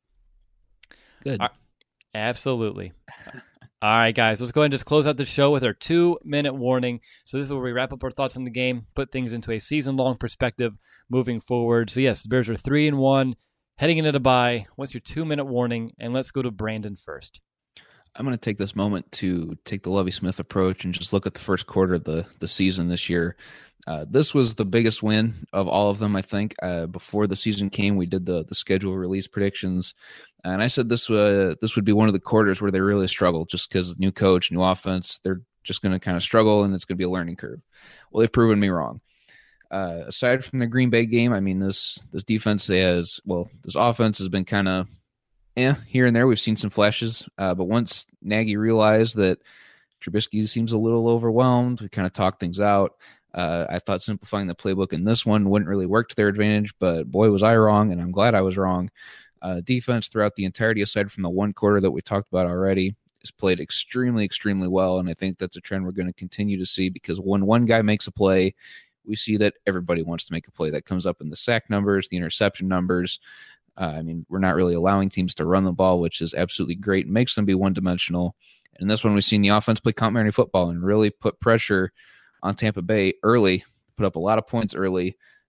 Good. Right. Absolutely. All right, guys, let's go ahead and just close out the show with our two-minute warning. So this is where we wrap up our thoughts on the game, put things into a season-long perspective moving forward. So yes, the Bears are three and one. Heading into the bye, what's your two-minute warning? And let's go to Brandon first. I'm going to take this moment to take the Lovie Smith approach and just look at the first quarter of the, the season this year. Uh, this was the biggest win of all of them, I think. Uh, before the season came, we did the the schedule release predictions, and I said this, uh, this would be one of the quarters where they really struggle just because new coach, new offense, they're just going to kind of struggle, and it's going to be a learning curve. Well, they've proven me wrong. Uh, aside from the Green Bay game, I mean, this this defense has, well, this offense has been kind of, eh, here and there. We've seen some flashes, uh, but once Nagy realized that Trubisky seems a little overwhelmed, we kind of talked things out. Uh, I thought simplifying the playbook in this one wouldn't really work to their advantage, but boy, was I wrong, and I'm glad I was wrong. Uh, defense throughout the entirety, aside from the one quarter that we talked about already, has played extremely, extremely well, and I think that's a trend we're going to continue to see because when one guy makes a play, we see that everybody wants to make a play. That comes up in the sack numbers, the interception numbers. Uh, I mean, we're not really allowing teams to run the ball, which is absolutely great. It makes them be one-dimensional. And this one, we've seen the offense play complementary football and really put pressure on Tampa Bay early, put up a lot of points early,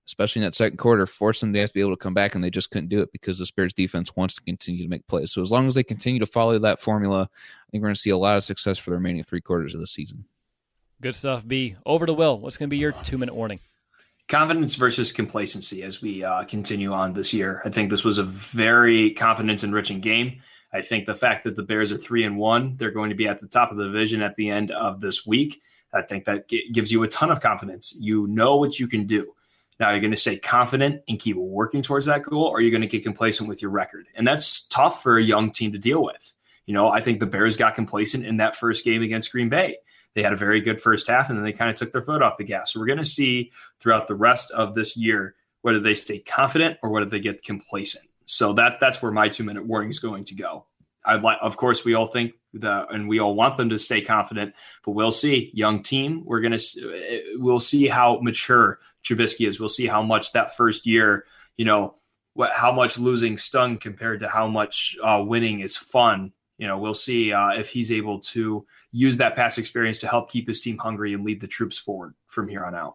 especially in that second quarter, forced them to have to be able to come back, and they just couldn't do it because the Bears defense wants to continue to make plays. So as long as they continue to follow that formula, I think we're going to see a lot of success for the remaining three quarters of the season. Good stuff, B. Over to Will. What's going to be your two-minute warning? Confidence versus complacency as we uh, continue on this year. I think this was a very confidence-enriching game. I think the fact that the Bears are three and one, they're going to be at the top of the division at the end of this week. I think that g- gives you a ton of confidence. You know what you can do. Now you're going to stay confident and keep working towards that goal, or you're going to get complacent with your record. And that's tough for a young team to deal with. You know, I think the Bears got complacent in that first game against Green Bay. They had a very good first half, and then they kind of took their foot off the gas. So we're going to see throughout the rest of this year whether they stay confident or whether they get complacent. So that that's where my two-minute warning is going to go. I'd like, of course, we all think that, and we all want them to stay confident, but we'll see. Young team, we're going to we'll see how mature Trubisky is. We'll see how much that first year, you know, what how much losing stung compared to how much uh, winning is fun. You know, we'll see uh, if he's able to use that past experience to help keep his team hungry and lead the troops forward from here on out.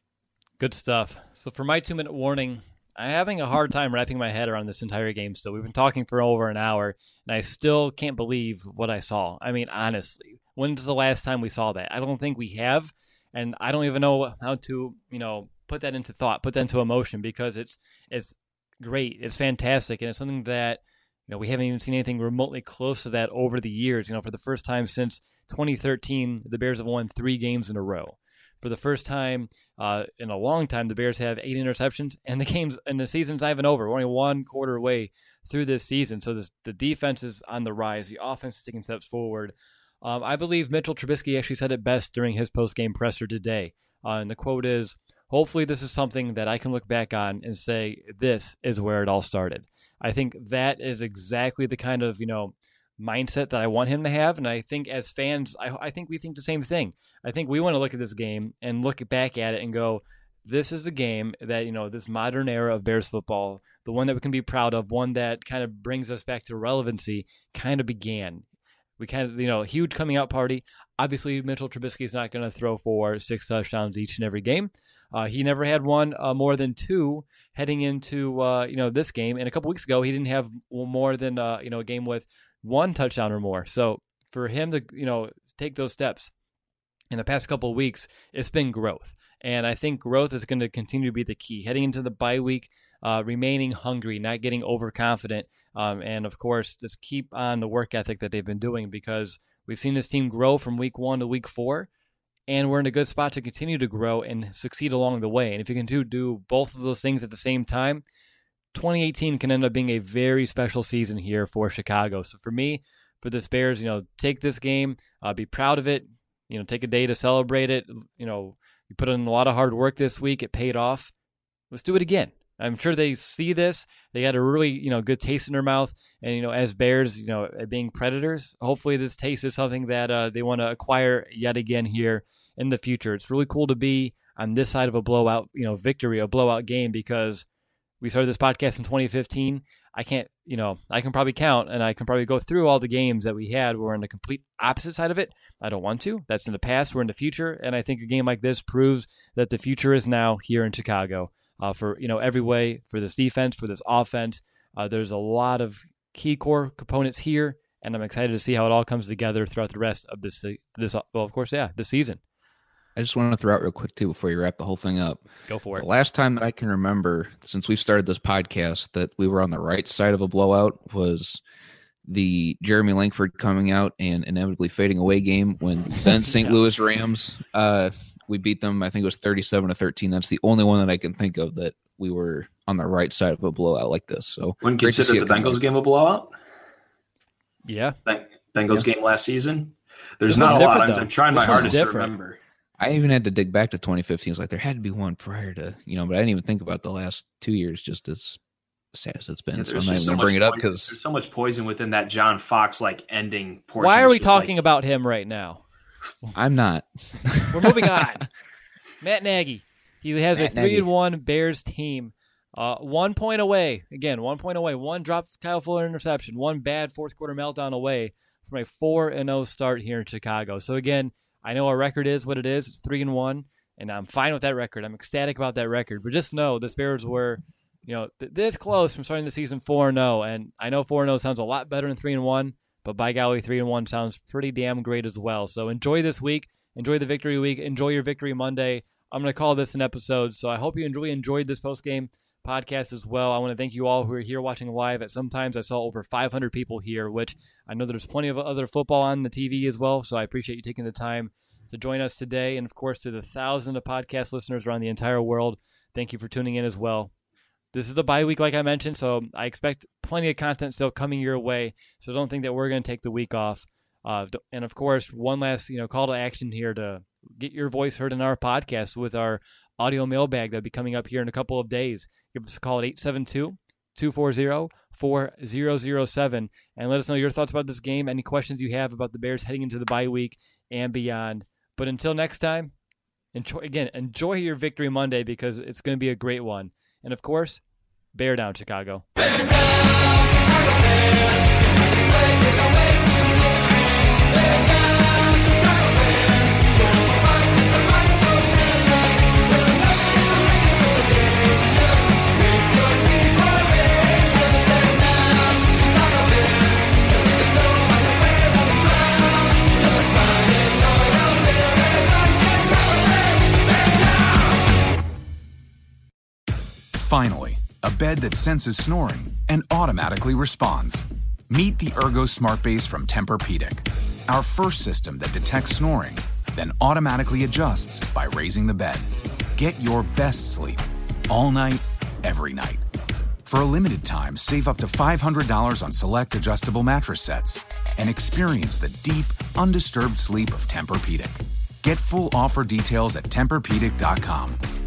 Good stuff. So for my two-minute warning, I'm having a hard time wrapping my head around this entire game still. We've been talking for over an hour, and I still can't believe what I saw. I mean, honestly, when's the last time we saw that? I don't think we have, and I don't even know how to, you know, put that into thought, put that into emotion, because it's it's great, it's fantastic, and it's something that, you know, we haven't even seen anything remotely close to that over the years. You know, for the first time since twenty thirteen, the Bears have won three games in a row. For the first time uh, in a long time, the Bears have eight interceptions, and the games and the season's not even over. We're only one quarter way through this season, so this, the defense is on the rise. The offense is taking steps forward. Um, I believe Mitchell Trubisky actually said it best during his post-game presser today, uh, and the quote is, "Hopefully this is something that I can look back on and say, this is where it all started." I think that is exactly the kind of, you know, mindset that I want him to have. And I think as fans, I, I think we think the same thing. I think we want to look at this game and look back at it and go, this is a game that, you know, this modern era of Bears football, the one that we can be proud of, one that kind of brings us back to relevancy, kind of began. We kind of, you know, huge coming out party. Obviously, Mitchell Trubisky is not going to throw for six touchdowns each and every game. Uh, he never had one uh, more than two heading into, uh, you know, this game. And a couple weeks ago, he didn't have more than, uh, you know, a game with one touchdown or more. So for him to, you know, take those steps in the past couple of weeks, it's been growth. And I think growth is going to continue to be the key. Heading into the bye week, uh, remaining hungry, not getting overconfident, um, and of course, just keep on the work ethic that they've been doing, because we've seen this team grow from week one to week four, and we're in a good spot to continue to grow and succeed along the way. And if you can do, do both of those things at the same time, twenty eighteen can end up being a very special season here for Chicago. So for me, for this Bears, you know, take this game, uh, be proud of it, you know, take a day to celebrate it. You know, you put in a lot of hard work this week. It paid off. Let's do it again. I'm sure they see this. They got a really, you know, good taste in their mouth. And, you know, as Bears, you know, being predators, hopefully this taste is something that uh, they want to acquire yet again here in the future. It's really cool to be on this side of a blowout, you know, victory, a blowout game, because we started this podcast in twenty fifteen. I can't, you know, I can probably count and I can probably go through all the games that we had where we're on the complete opposite side of it. I don't want to. That's in the past. We're in the future. And I think a game like this proves that the future is now here in Chicago. Uh, for, you know, every way, for this defense, for this offense. Uh, there's a lot of key core components here, and I'm excited to see how it all comes together throughout the rest of this, this well, of course, yeah, this season. I just want to throw out real quick, too, before you wrap the whole thing up. Go for it. The last time that I can remember, since we've started this podcast, that we were on the right side of a blowout was the Jeremy Langford coming out and inevitably fading away game when then Saint yeah. Louis Rams uh, – we beat them, I think it was thirty-seven to thirteen. That's the only one that I can think of that we were on the right side of a blowout like this. So, wouldn't consider the Bengals game a blowout? Yeah. Bengals yeah. game last season? There's not a lot. I'm, I'm trying my hardest different. to remember. I even had to dig back to twenty fifteen. It's like there had to be one prior to, you know, but I didn't even think about the last two years just as sad as it's been. Yeah, so I'm not even so going to bring it up because there's so much poison within that John Fox like ending portion. Why are we talking like... about him right now? I'm not. We're moving on. Matt Nagy. He has Matt a three and one Bears team. Uh, one point away. Again, one point away. One drop Kyle Fuller interception. One bad fourth quarter meltdown away from a four and oh start here in Chicago. So again, I know our record is what it is. It's three and one. and I'm fine with that record. I'm ecstatic about that record. But just know this Bears were, you know, th- this close from starting the season four and oh, and I know four and oh sounds a lot better than three and one, but by golly, three and one sounds pretty damn great as well. So enjoy this week, enjoy the victory week, enjoy your Victory Monday. I'm going to call this an episode, so I hope you really enjoyed this post-game podcast as well. I want to thank you all who are here watching live. At sometimes I saw over five hundred people here, which I know there's plenty of other football on the T V as well, so I appreciate you taking the time to join us today. And of course, to the thousands of podcast listeners around the entire world, thank you for tuning in as well. This is the bye week, like I mentioned, so I expect plenty of content still coming your way, so don't think that we're going to take the week off. Uh, and of course, one last you know call to action here to get your voice heard in our podcast with our audio mailbag that'll be coming up here in a couple of days. Give us a call at eight seven two, two four zero, four zero zero seven and let us know your thoughts about this game, any questions you have about the Bears heading into the bye week and beyond. But until next time, enjoy again, enjoy your Victory Monday because it's going to be a great one. And of course, bear down, Chicago. Bear down, Chicago Bears. Finally, a bed that senses snoring and automatically responds. Meet the Ergo Smart Base from Tempur-Pedic, our first system that detects snoring, then automatically adjusts by raising the bed. Get your best sleep all night, every night. For a limited time, save up to five hundred dollars on select adjustable mattress sets and experience the deep, undisturbed sleep of Tempur-Pedic. Get full offer details at Tempur Pedic dot com.